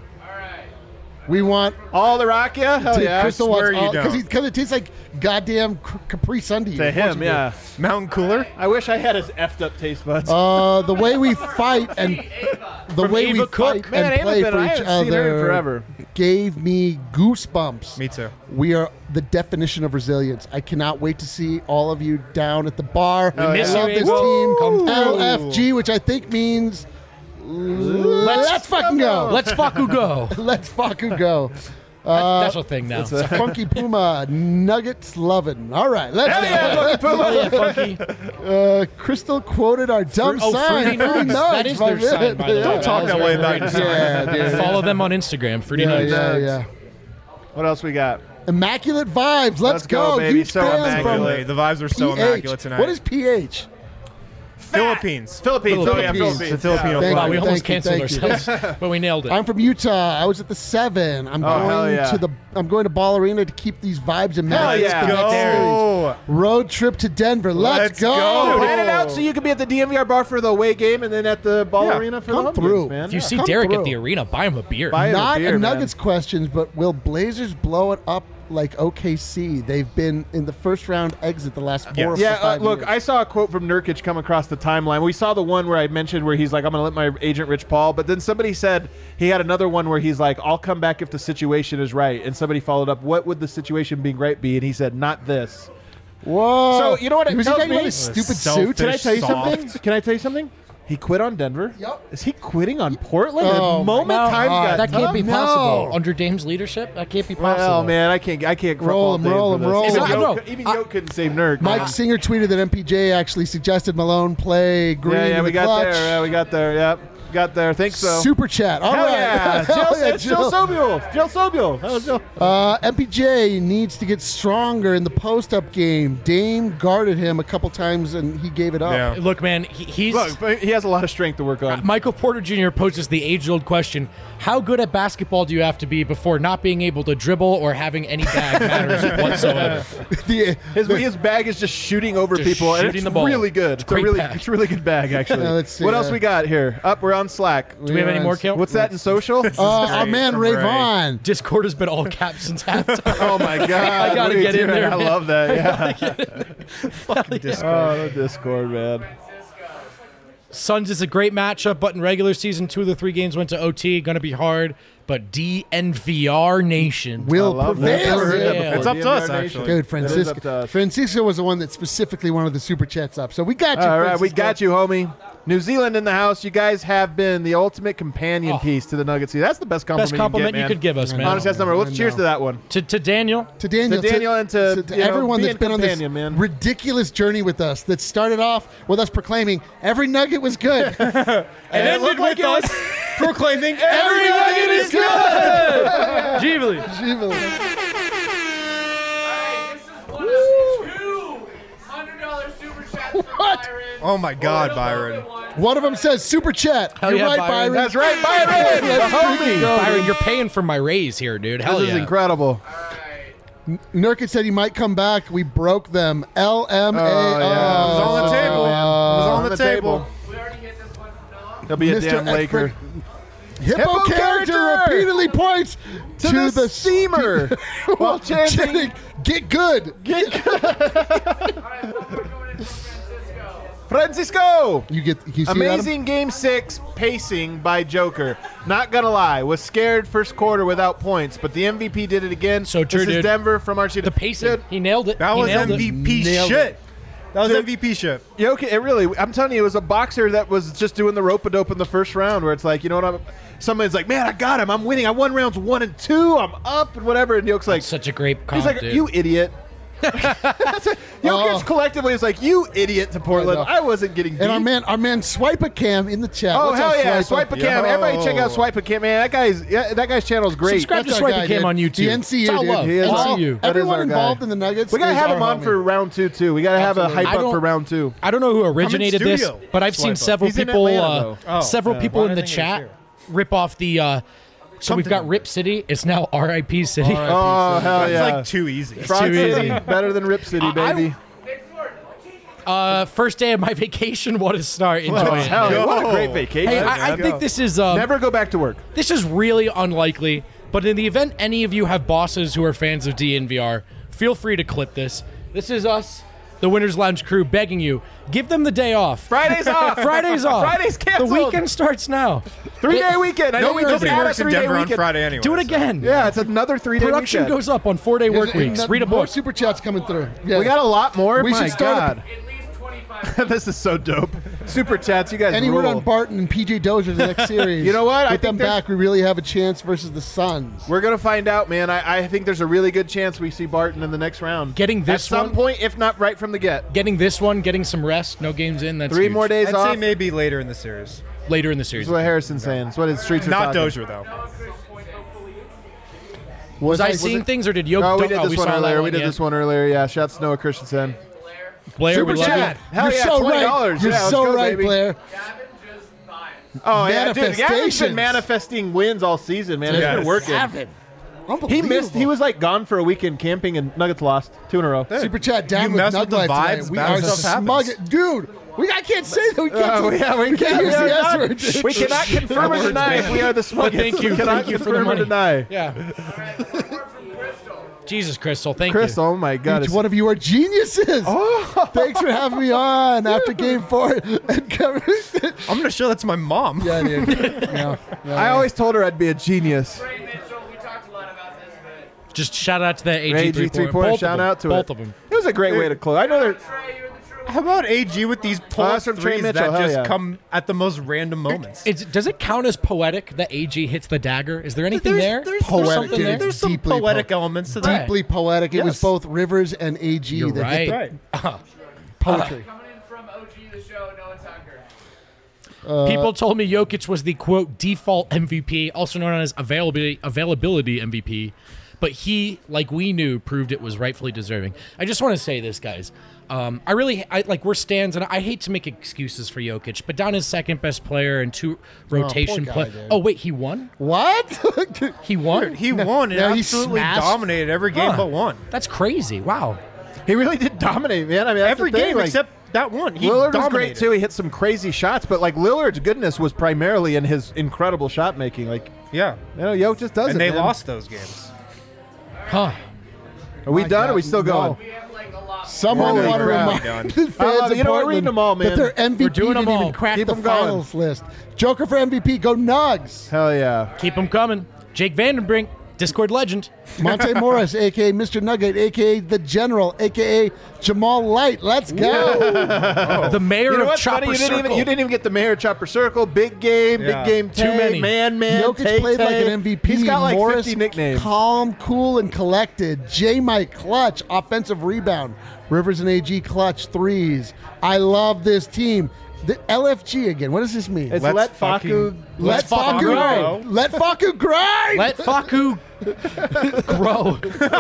We want All the Rakia? Hell Dude, yeah. Crystal swear wants you all don't. because it tastes like goddamn Capri Sun to you. To Of course him, you yeah. Mountain Cooler. I wish I had his effed up taste buds. do. The way we fight and the From way we Ava Cook. fight Man, and Ava's play been- for I each haven't seen her in other forever. gave me goosebumps. Me too. We are the definition of resilience. I cannot wait to see all of you down at the bar. I miss love you, this Abel. team. Come through. LFG, which I think means let's fucking go. Let's fucking go. Let's fucking go. That's a thing now. Funky Puma, Nuggets lovin'. All right, let's Crystal quoted our dumb sign. Fruity Nugs. That is their sign, by the way. Don't talk that way about yourself. Yeah, dude. Follow them on Instagram, Fruity Yeah, Nugs. yeah, yeah. What else we got? Immaculate vibes. Let's go, baby. Huge So fans from immaculate. The vibes are so PH. immaculate tonight. What is PH? Philippines? Philippines. Oh, yeah, Philippines. Philippines. The Filipino Thank Wow, flag. we you, almost thank you, canceled ourselves, but we nailed it. I'm from Utah. I was at the 7. I'm hell going yeah. I'm going to Ball Arena to keep these vibes in Hell mind. yeah. The next Go. series. Road trip to Denver. Let's go. go. Plan it out so you can be at the DMVR bar for the away game and then at the Ball Yeah, Arena for come the home through. games, man. If you see Come Derek through. at the arena, buy him a beer. Buy him Not beer, a man. Nuggets questions, but will Blazers blow it up like OKC? They've been in the first round exit the last 4 or Yeah, 5 look, years. I saw a quote from Nurkic come across the timeline. We saw the one where I mentioned where he's like, I'm going to let my agent Rich Paul. But then somebody said he had another one where he's like, I'll come back if the situation is right. And somebody followed up, what would the situation being right be? And he said, not this. Whoa. So, you know what it Was he tells talking me? about his stupid Selfish, suit? Can I tell you soft. something? Can I tell you something? He quit on Denver. Yep. Is he quitting on Portland? Oh, the moment my times God. got That can't be No. possible under Dame's leadership. That can't be possible. Well, man, I can't Roll fault him, roll Dave him, for roll this. him. Even No, Yoke- Even Yoke couldn't save Nurk. Mike Singer tweeted that MPJ actually suggested Malone play Green Yeah, in we the got clutch. there. Yeah, we got there. Yep, got there. Think so. Super chat. All Hell right. yeah. Hell yeah, Jill Sobule. Jill Sobule. That was Jill. MPJ needs to get stronger in the post-up game. Dame guarded him a couple times and he gave it up. Yeah. Look, man, he's Look, but he has a lot of strength to work on. Michael Porter Jr. poses the age-old question: how good at basketball do you have to be before not being able to dribble or having any bag matters whatsoever? His bag is just shooting over Just people, and shooting it's the ball. really good. It's a Great really, bag. it's a really good bag, actually. Yeah, let's see, What else we got here? Up, we're on Slack. Do we have any more, Kale? What's that in social? Our man Ray Vaughn. Discord has been all caps since halftime. Oh my god! I gotta Me get in too. there, I man. love that. Yeah. Discord. Oh, the Discord, man. Suns is a great matchup, but in regular season, 2 of the 3 games went to OT. Going to be hard, but DNVR Nation Will I love that. prevail. Never heard that Yeah. before. It's up to us, DNVR Nation. actually. Dude, It is Francisco. up to us. Francisco was the one that specifically wanted the super chats up. So we got you. All right, we Francisco. got you, homie. New Zealand in the house. You guys have been the ultimate companion piece to the Nuggets. That's the best compliment, Best compliment you you can could give us, man. Honestly, that's number. Let's I cheers know. to that one. To Daniel, To Daniel, To Daniel and to, you know, everyone being that's been on this companion, man. ridiculous journey with us. That started off with us proclaiming every nugget was good, and ended looked like with it was us proclaiming every nugget is good. Jeebly. Jeebly. Alright, this is one of 2 $100 super chats from What? Byron. Oh my God, Byron. One of them says super chat. Hell You're yeah, right, Byron. Byron. That's right, Byron. the homie. Byron, you're paying for my raise here, dude. Hell This yeah. is incredible. Nurkic said he might come back. We broke them. LMAO. Oh, yeah. It was on the table. It was on the table. We already hit this one from Noah. He'll be a Mr. damn Laker. Hippo Hippo character character! repeatedly points To the seamer. While chanting, get good. get Alright, we're going into Francisco. Francisco. You see Adam? Amazing Game 6 pacing by Joker. Not gonna lie, was scared first quarter without points, but the MVP did it again. So true, This is dude. Denver from Archie. The pacing. Dude, He nailed it. That He was nailed it. MVP Nailed shit. That was Dude. MVP shit. Yeah, okay, it really. I'm telling you, it was a boxer that was just doing the rope-a-dope in the first round, where it's like, you know what? Somebody's like, man, I got him. I'm winning. I won rounds 1 and 2. I'm up and whatever. And Yoke's like, Such a great he's comp, like, dude. you idiot. Jokic collectively is like, you idiot to Portland. I know. I wasn't getting beat. And our man Swipe a Cam in the chat. Oh What's hell up, yeah! Swipe Swipe a Cam. Everybody check out Swipe a Cam, man. That guy's channel is great. Subscribe to That's our Swipe guy, and Cam dude. on YouTube. The NCU, It's all dude. love. He is All- NCU. That is Everyone our guy. involved in the Nuggets. We gotta is have our him on homie. for round 2 too. We gotta have a Absolutely. hype I up don't- for round 2. I don't know who originated this, studio. but I've seen Swipe up. several He's in people, Atlanta, though. several people why in did the I think he was chat here? rip off the. So we've got Rip City. It's now RIP City. Oh hell That's yeah! like too easy. Fraud too City, easy. better than Rip City, baby. First day of my vacation. What a start! Enjoy Oh, it. hell yeah. What a Go. great vacation. Hey, man. I think this is Never go back to work. this is really unlikely. But in the event any of you have bosses who are fans of DNVR, feel free to clip this. This is us, the Winners Lounge crew, begging you, give them the day off. Friday's off. Friday's off. Friday's canceled. The weekend starts now. 3-day weekend. I know we just Nobody had a works in 3-day Denver on weekend. Friday anyway. Do it so. again. Yeah, it's another 3-day Production weekend. goes up on 4-day work And weeks. Read a more book. super chats coming through. Yeah. We got a lot more. We My should start God. At least 25. This is so dope. Super chats, you guys Any word rule. on Barton and PJ Dozier the next series? You know what? I With them think there's- back, we really have a chance versus the Suns. We're going to find out, man. I think there's a really good chance we see Barton in the next round. Getting this At some one- point, if not right from the get. Getting this one, getting some rest, no games in. That's 3 huge. more days I'd off. say maybe later in the series. later in the series. That's what Harrison's saying. That's what his streets are Not talking. Dozier though. Was I seeing things, or did Jokic? No, we did this one saw earlier. that We did yeah. this one earlier. Yeah, shouts to Noah Christensen. Blair, Super we love chat. you. Hell You're yeah, so $20. right. You're Yeah, let's so go, right, baby. Blair. Gavin just fine. Oh yeah, dude. Gavin's been Manifestations. manifesting wins all season, man. It's Yes. been working. Gavin. He Unbelievable. missed. He was like gone for a weekend camping, and Nuggets lost 2 in a row. Super chat down You with mess Nug with the Life vibes, tonight. We bad are stuff smug. happens. Dude, I can't say that. We can't, Yeah, we use are the not- S word. dude. We cannot confirm or deny if we are the smugglers. Thank you. We cannot Thank you for the confirm or money. deny. Yeah. All right, one more from Crystal. Jesus, Crystal, thank Chris, you. oh my God. Each one of you are geniuses. Oh. Thanks for having me on after Game 4. And Kevin- I'm going to show that to my mom. yeah, dude. Yeah, I always told her I'd be a genius. Ray Mitchell, we talked a lot about this, but Just shout out to that AG AG three-pointer. three-pointer, Both of shout them. out to Both it. of them. It was a great way to close. I know they're. Trey, you're the true How about AG with these pull that's from Trey threes Mitchell, that hell just yeah. come at the most random moments? Does it count as poetic that AG hits the dagger? Is there anything there? Poetic, something dude. there? There's some Deeply poetic elements to that. deeply poetic. It was Yes. both Rivers and AG You're that hit right. the Right. poetry. coming in from OG the show, Noah Tucker. People told me Jokic was the quote default MVP, also known as availability MVP. But he, like we knew, proved it was rightfully deserving. I just want to say this, guys. We're stands, and I hate to make excuses for Jokic, but down his second best player and 2 rotation guy, play. dude. Oh wait, he won. What? He won. He won and no, he absolutely smashed- dominated every game Huh. but one. That's crazy. Wow. He really did dominate, man. I mean, that's Every the thing, game like, except that one. He Lillard was dominated. great too. He hit some crazy shots, but like Lillard's goodness was primarily in his incredible shot making. Like, Yeah. Jokic just does it. And they man. lost those games. Huh. Are we My done? Or God, are we still going? no. We have like a lot. Someone Holy want to crap. remind Done. the fans love it. of You know, we're Portland reading them all, man. that their MVP We're doing didn't them all. even crack Keep the them going. finals list. Joker for MVP, go Nugs. Hell yeah. Keep them coming. Jake Vandenbrink, Discord legend. Monte Morris, a.k.a. Mr. Nugget, a.k.a. The General, a.k.a. Jamal Light. Let's go. The mayor You know of what's Chopper funny? You Circle. didn't even get the mayor Chopper Circle. Big game, Yeah. big game. Too Tay, many. Man, Jokic Tay, played like Tay. an MVP. He's got like Morris, 50 nicknames. calm, cool, and collected. J-Mike, clutch, offensive rebound. Rivers and AG, clutch, threes. I love this team. The LFG again. What does this mean? It's Let's let fucking- Faku. Let Faku grow. Let Faku grind. Let Faku grow.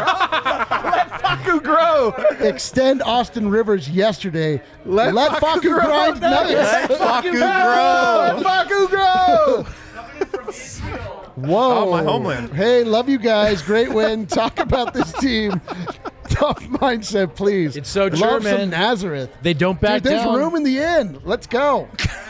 Faku grow. Extend Austin Rivers yesterday. Let Faku Faku grow. grind nuggets. Faku grow. Let Faku grow. Coming in from Israel. Whoa. Oh, my homeland. Hey, love you guys. Great win. Talk about this team. Tough mindset, please. It's so true, love man. some Nazareth. They don't back Dude, there's down. room in the inn. Let's go.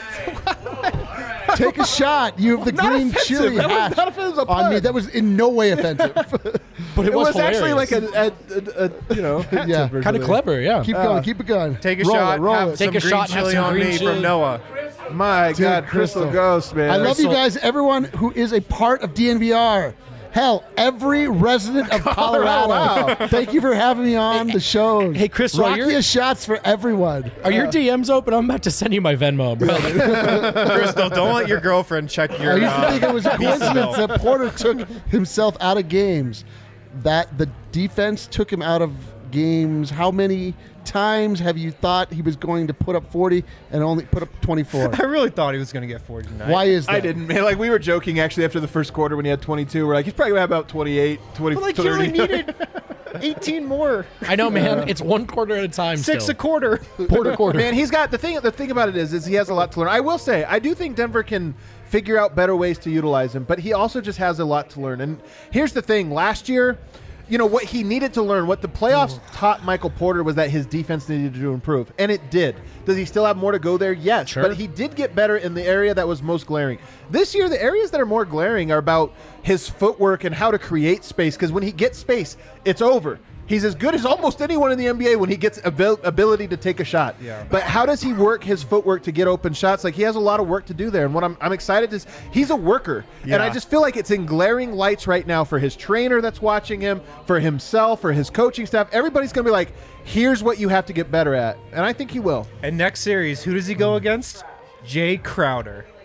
Take a shot. You have the Not green offensive. chili That was hash not offensive. It was a on me. pun. That was in no way offensive. But It was actually hilarious. like a you know, hat Yeah. tip or kind of something. clever, yeah. Keep going. Keep it going. Take a roll shot. It, roll have it. some Take a green shot, have chili some on green me chili. from Noah. My Dude, God, Crystal Ghost, man. I love you Crystal. guys. Everyone who is a part of DNVR. Hell, every resident of Colorado. Wow. Thank you for having me on the show. Hey, Crystal, Rockiest shots for everyone. Are your DMs open? I'm about to send you my Venmo, bro. Crystal, don't let your girlfriend check your. I used to think it was a pizza coincidence bill. that Porter took himself out of games. That the defense took him out of games. How many times have you thought he was going to put up 40 and only put up 24? I really thought he was going to get 40 tonight. Why is that? I didn't, man. Like, we were joking, actually, after the first quarter when he had 22. We're like, he's probably going to have about 28, 20, But like, 30. he only needed 18 more. I know, man. It's one quarter at a time. 6 still. a quarter. quarter. Man, he's got the thing about it is he has a lot to learn. I will say, I do think Denver can figure out better ways to utilize him, but he also just has a lot to learn. And here's the thing: last year, you know what he needed to learn, what the playoffs taught Michael Porter was that his defense needed to improve, and it did. Does he still have more to go there? Yes, Sure. but he did get better in the area that was most glaring. This year, the areas that are more glaring are about his footwork and how to create space, because when he gets space, it's over. He's as good as almost anyone in the NBA when he gets ability to take a shot. Yeah. But how does he work his footwork to get open shots? Like, he has a lot of work to do there. And what I'm excited is he's a worker. Yeah. And I just feel like it's in glaring lights right now for his trainer that's watching him, for himself, for his coaching staff. Everybody's going to be like, here's what you have to get better at. And I think he will. And next series, who does he go against? Jay Crowder.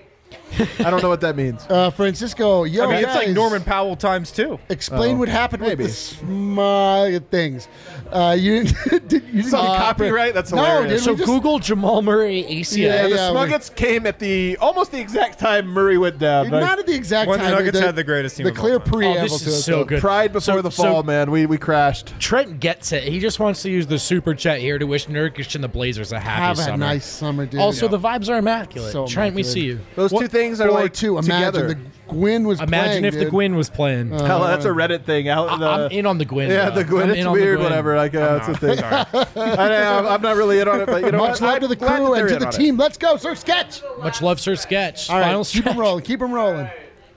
I don't know what that means. Francisco, yo, I mean, it's like guys, Norman Powell times 2. Explain what happened maybe. with the small things. You didn't Some copyright? That's hilarious. So Google Jamal Murray ACL. Yeah, the yeah, Smuggets came at almost the exact time Murray went down. Not at the exact When the time. Nuggets had the greatest team The of all clear time. preamble this to is it. so though. good. Pride before the fall, man. We crashed. Trent gets it. He just wants to use the super chat here to wish Nurkic and the Blazers a happy Have summer. a nice summer, dude. Also, the vibes are immaculate. So Trent, we immaculate. see you. Those two things are like 4-2. Imagine together. the Gwyn was Imagine playing, if the dude. Gwyn was playing. Hell, that's a Reddit thing. I'm in on the Gwyn. Yeah, bro. the Gwyn. I'm It's in on the weird, Gwyn. whatever. Like, that's the thing. I'm not really in on it, but you know Much what? love to the I'm glad crew that and they're to in the on it. team. Let's go, Sir Sketch. Much love, Sir Sketch. All right, Final keep stretch. them rolling. Keep them rolling.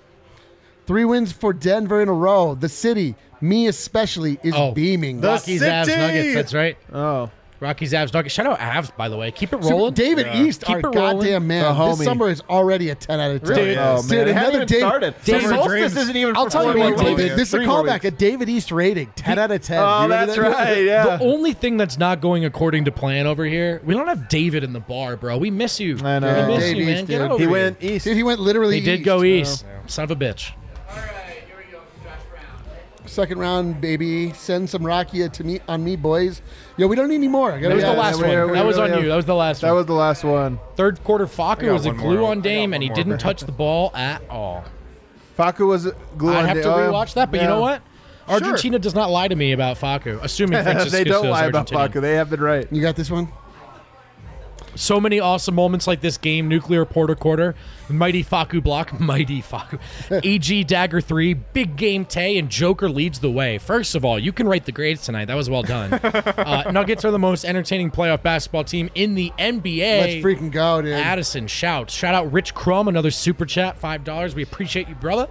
3 wins for Denver in a row. The city, me especially, is beaming. Rockies, Avs, City! Nuggets. That's right. Oh. Rockies, Avs, Nuggets. Shout out Avs, by the way. Keep it So rolling. David East, Keep our it rolling. goddamn man. The This homie. summer is already a 10 out of 10. Dude, Oh, man. Dude, it hasn't another even Dave- started. David Summer solstice Dreams. isn't even I'll for tell you 4 what, more David, days. This is a 3 more callback, weeks. a David East rating, 10 out of 10. Oh, You remember that's that? right. Yeah. The only thing that's not going according to plan over here, we don't have David in the bar, bro. We miss you. I know. We miss Dave you, man. East, Get dude. over He here. went east. Dude, he went literally He did east. go east. Son of a bitch. All right, here we go from Josh Brown. Second round, baby. Send some Rakia to me on me, boys. Yo, we don't need any more. That was the last one. That was on really you. That was the last That one. was the last one. Third quarter, Faku got was a one glue more. on Dame, I got and he one didn't more. touch the ball at all. Faku was glue I'd on have to the- rewatch that, but you yeah. know what? Argentina does not lie to me about Faku, assuming Francisco They don't is lie about Argentinian. Faku. They have been right. You got this one? So many awesome moments like this game. Nuclear Porter quarter, mighty Faku block, mighty Faku. EG Dagger 3, big game Tay, and Joker leads the way. First of all, you can write the grades tonight. That was well done. Nuggets are the most entertaining playoff basketball team in the NBA. Let's freaking go, dude. Addison shouts. Shout out Rich Crum, another super chat, $5. We appreciate you, brother.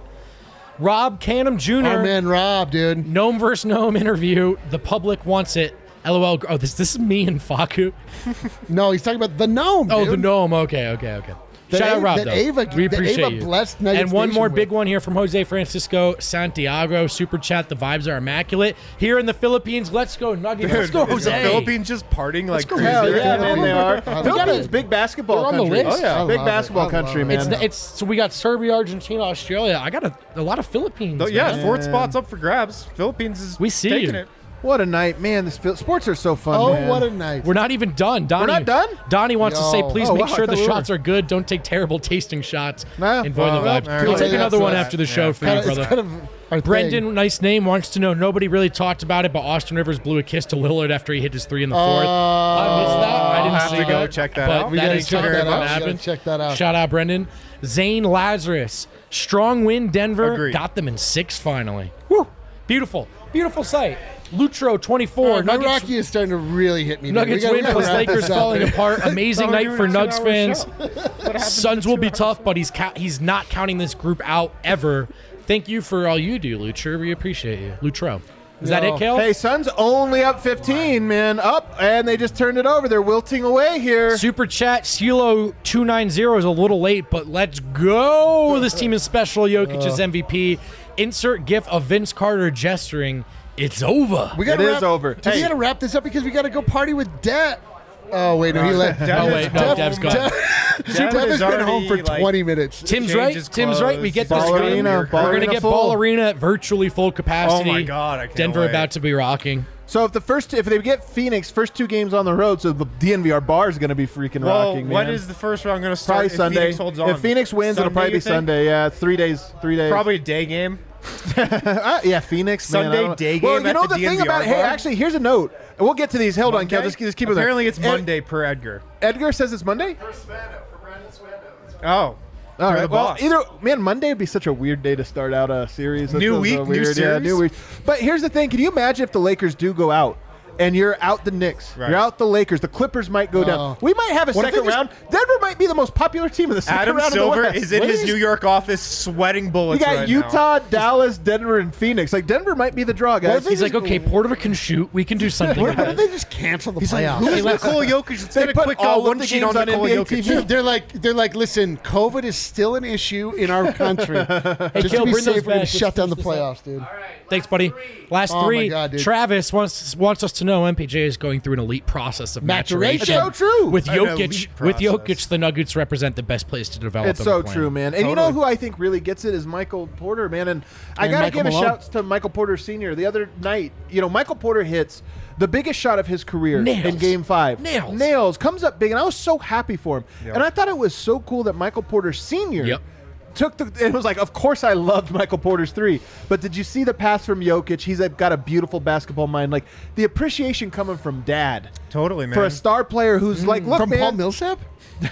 Rob Canham Jr. Our man Rob, dude. Gnome vs. Gnome interview. The public wants it. LOL. Oh, this is me and Faku. No, he's talking about the gnome. Oh, dude. the gnome. Okay. That Shout out Ava- Rob, that though. Ava- we that appreciate Ava you. blessed Nuggets And one Nation more with. big one here from Jose Francisco Santiago. Super chat. The vibes are immaculate. Here in the Philippines, let's go Nuggets. Let's go, Is Jose. the Philippines just partying like go, crazy? Hell Jose. yeah, man, they are. I love Philippines, it. big basketball They're on the country. list. Oh, yeah. I Big love it. basketball I country, love man. it. It's so we got Serbia, Argentina, Australia. I got a lot of Philippines. Yeah, man. fourth spot's up for grabs. Philippines is We see taking you. it. What a night, man. Sports are so fun, Oh, man. what a night. We're not even done. Donnie, not done? Donnie wants to say, Yo. please Oh, make wow, sure I the thought we shots were. are good. Don't take terrible tasting shots. Nah, Enjoy the well, vibes. all We'll right. take another That's one that. after the Yeah. show for you, It's brother. kind of our Brendan, thing. nice name, wants to know, nobody really talked about it, but Austin Rivers blew a kiss to Lillard after he hit his 3 in the fourth. I missed that. I I'll didn't have see to go that. check that but out. We that gotta is check very that fun out. to We gotta happen. check that out. Shout out, Brendan. Zane Lazarus. Strong win, Denver. Agreed. Got them in 6 finally. Woo! Beautiful. Beautiful sight. Lutro, 24. My Nuggets Rocky is starting to really hit me. dude. Nuggets We win gotta plus wrap Lakers this up, falling dude. apart. Amazing Thought we night were for doing a Nugs 2-hour fans. Suns will be tough, but he's not counting this group out ever. Thank you for all you do, Lutro. We appreciate you. Lutro. Is that Yo. it, Kale? Hey, Suns only up 15, man. Up, and they just turned it over. They're wilting away here. Super chat, Silo290 is a little late, but let's go. This team is special. Jokic is MVP. Insert gif of Vince Carter gesturing. It's over. We gotta It wrap, is over. Dude, we Hey. gotta wrap this up because we gotta go party with Dev. Oh wait, no, he left. Oh, wait, no, Dev's gone. Dev has been home for already, like, 20 minutes. Tim's Change right. his Tim's right. We get clothes. this Ball game. arena, We're ball going to arena get full. Ball Arena at virtually full capacity. Oh my God, I can't Denver wait. about to be rocking. So if they get Phoenix first 2 games on the road, so the DNVR bar is going to be freaking Well, rocking. when man. is the first round going to start? probably if Sunday? Phoenix holds on? If Phoenix wins, it'll Sunday, probably be you think? Sunday. Yeah, it's 3 days. 3 days. Probably a day game. Yeah, Phoenix. man, I Sunday don't know. day Well, game you know at the the thing DNVR about hey, bar? actually, here's a note. We'll get to these. Hold on, Kel. Monday? Just keep it there. Apparently, it's Monday per Edgar. Edgar says it's Monday. Oh. All right. the Well, boss. either man, would be such a weird day to start out a series. That New feels week, so new weird. Yeah, series? new week. But here's the thing: can you imagine if the Lakers do go out? And you're out the Knicks. Right. You're out the Lakers. The Clippers might go down. We might have a What if second they just- round. Denver might be the most popular team in the second Adam round Silver of the West. is in What his is- New York office sweating You bullets got right Utah, Dallas, Denver, and Phoenix. Like Denver might be the draw, guys. He's like, okay, Porter can shoot. We can do something with Why don't it. they just cancel the playoffs? now. Who is Nikola Jokic? Let's They get a put quick all of one the sheet games on on Nikola NBA Jokic. TV. Dude, they're like, listen, COVID is still an issue in our country. Just Kale, to be bring those safe, we're going to back. shut down the Let's finish playoffs, dude. Thanks, buddy. Last Oh my 3. God, dude. Travis wants us to know MPJ is going through an elite process of maturation. It's so true. With An elite Jokic, the Nuggets represent the best place to develop. It's so plan. true, man. And you know who I think really gets it is Michael Porter, man. And I got to give a shout to Michael Porter Sr. The other night, Michael Porter hits the biggest shot of his career in Game 5. Nails. Comes up big, and I was so happy for him. Yep. And I thought it was so cool that Michael Porter Sr. It was like, of course I loved Michael Porter's 3, but did you see the pass from Jokic? He's got a beautiful basketball mind. Like, the appreciation coming from Dad. Totally, man. For a star player who's like, look, from man. Paul Millsap?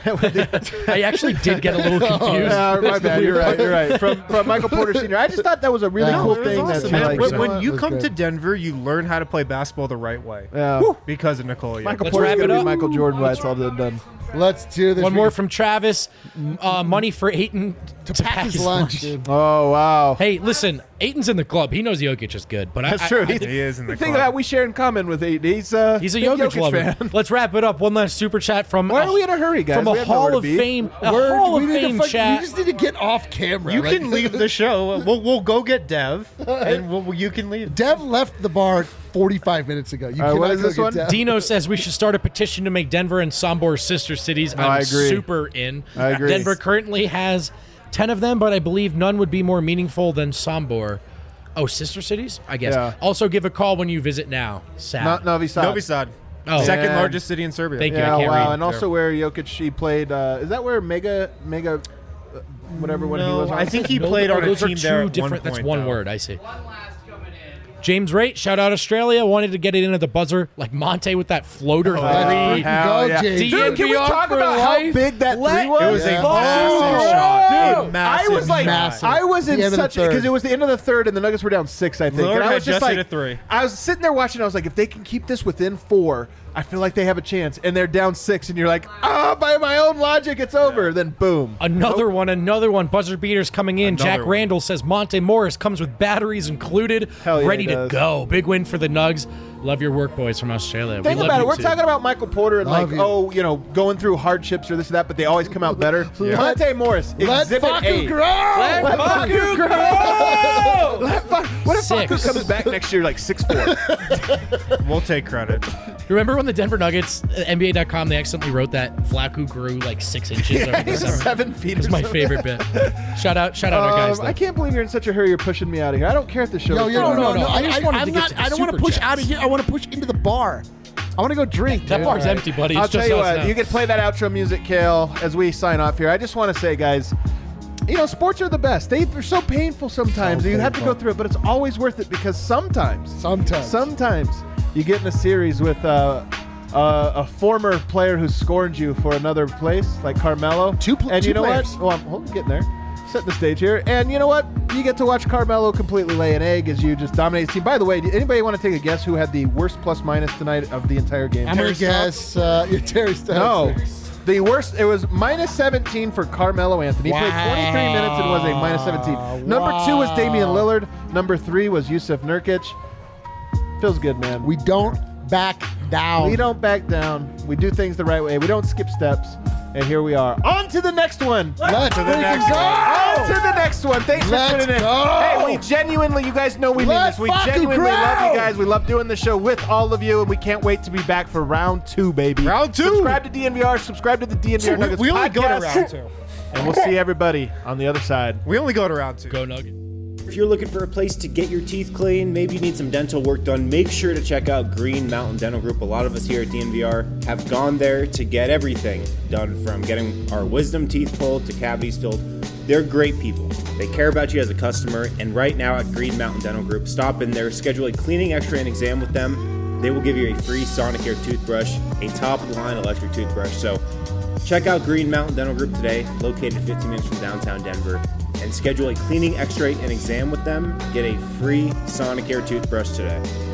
I actually did get a little confused. My bad. You're right. From Michael Porter Sr. I just thought that was a really cool thing. Awesome, that when you come to Denver, you learn how to play basketball the right way. Because of Nikola Jokic. Michael Porter's going to be Michael Jordan when it's all done. Let's do this. One more from Travis. Money for Ayton to pack his lunch. Oh, wow. Hey, listen, Ayton's in the club. He knows Jokic is good. But that's true. He is in the club. The thing that we share in common with Ayton, he's a Jokic lover. fan. Let's wrap it up. One last super chat from. Why are we in a hurry, guys? From a Hall of Fame. Hall of Fame chat. We just need to get off camera. You can leave the show. We'll go get Dev, and you can leave. Dev left the bar 45 minutes ago. You what is this one? Dino says we should start a petition to make Denver and Sombor sister cities. I agree. Super in. I agree. Denver currently has 10 of them, but I believe none would be more meaningful than Sombor. Oh, sister cities? I guess. Yeah. Also, give a call when you visit now. Sad. Novi Sad. Novi Sad. Oh. Second largest city in Serbia. Thank you. I can't read. And also where Jokic, he played, is that where Mega whatever when he was on? I think he played on a Those are team two there at different. one That's point, one though. word, I see. One last coming in. James Raitt, shout out Australia. Wanted to get it into the buzzer like Monte with that floater three. Hell yeah. James. Dude, can we talk about how big that 3 was? It was a massive shot. Dude, I was like, massive. I was in The end of the such third. because it was the end of the third and the Nuggets were down 6, I think. Lillard And I had was just just like, hit a 3. I was sitting there watching. I was like, if they can keep this within 4, I feel like they have a chance. And they're down 6, and you're like, by my own logic, it's over. Then boom, Another one. Buzzer beaters coming in. Jack one. Randall says Monte Morris comes with batteries included, Hell yeah, ready he to does. go. Big win for the Nugs. Love your work, boys from Australia. Think we about love it. you We're too. talking about Michael Porter and Love you. going through hardships or this or that, but they always come out better. Monte Morris, Let Exhibit Facu A. grow! Let Facu grow! What if Facu 6. comes back next year like 6'4"? We'll take credit. Remember when the Denver Nuggets, NBA.com, they accidentally wrote that Flacco grew like 6 inches over the He's summer? 7 feet. It's or my something. favorite bit. Shout out our guys. I can't believe you're in such a hurry. You're pushing me out of here. I don't care if the show. No, is no, done. no. I just wanted to get to the I don't want to super push chats. out of here. I want to push into the bar. I want to go drink. That dude. bar's empty, buddy. It's I'll just tell you us what. now. You can play that outro music, Kale, as we sign off here. I just want to say, guys, sports are the best. They're so painful sometimes. So You have to go painful. through it, but it's always worth it because sometimes you get in a series with a former player who scorned you for another place, like Carmelo. And you know players. what? Well, I'm getting there. Setting the stage here. And you know what? You get to watch Carmelo completely lay an egg as you just dominate the team. By the way, anybody want to take a guess who had the worst plus-minus tonight of the entire game? I'm going to guess Terry Stotts. No. The worst, it was minus 17 for Carmelo Anthony. He played 23 minutes and was a minus 17. Number 2 was Damian Lillard. Number 3 was Yusuf Nurkic. Feels good, man. We don't back down. We don't back down. We do things the right way. We don't skip steps. And here we are. On to the next one. Let's On freaking go! to the next one. Thanks Let's for tuning in. go! Hey, we genuinely, you guys know we mean Let's this. We fucking genuinely grow! love you guys. We love doing the show with all of you, and we can't wait to be back for round 2, baby. Round 2. Subscribe to DNVR. Subscribe to the DNVR Nuggets we only podcast. go to round 2. And we'll see everybody on the other side. We only go to round 2. Go Nugget. If you're looking for a place to get your teeth clean, maybe you need some dental work done, make sure to check out Green Mountain Dental Group. A lot of us here at DNVR have gone there to get everything done, from getting our wisdom teeth pulled to cavities filled. They're great people. They care about you as a customer, and right now at Green Mountain Dental Group, stop in there, schedule a cleaning, x-ray, and exam with them. They will give you a free Sonicare toothbrush, a top-of-the-line electric toothbrush. So check out Green Mountain Dental Group today, located 15 minutes from downtown Denver, and schedule a cleaning, x-ray, and exam with them. Get a free Sonicare toothbrush today.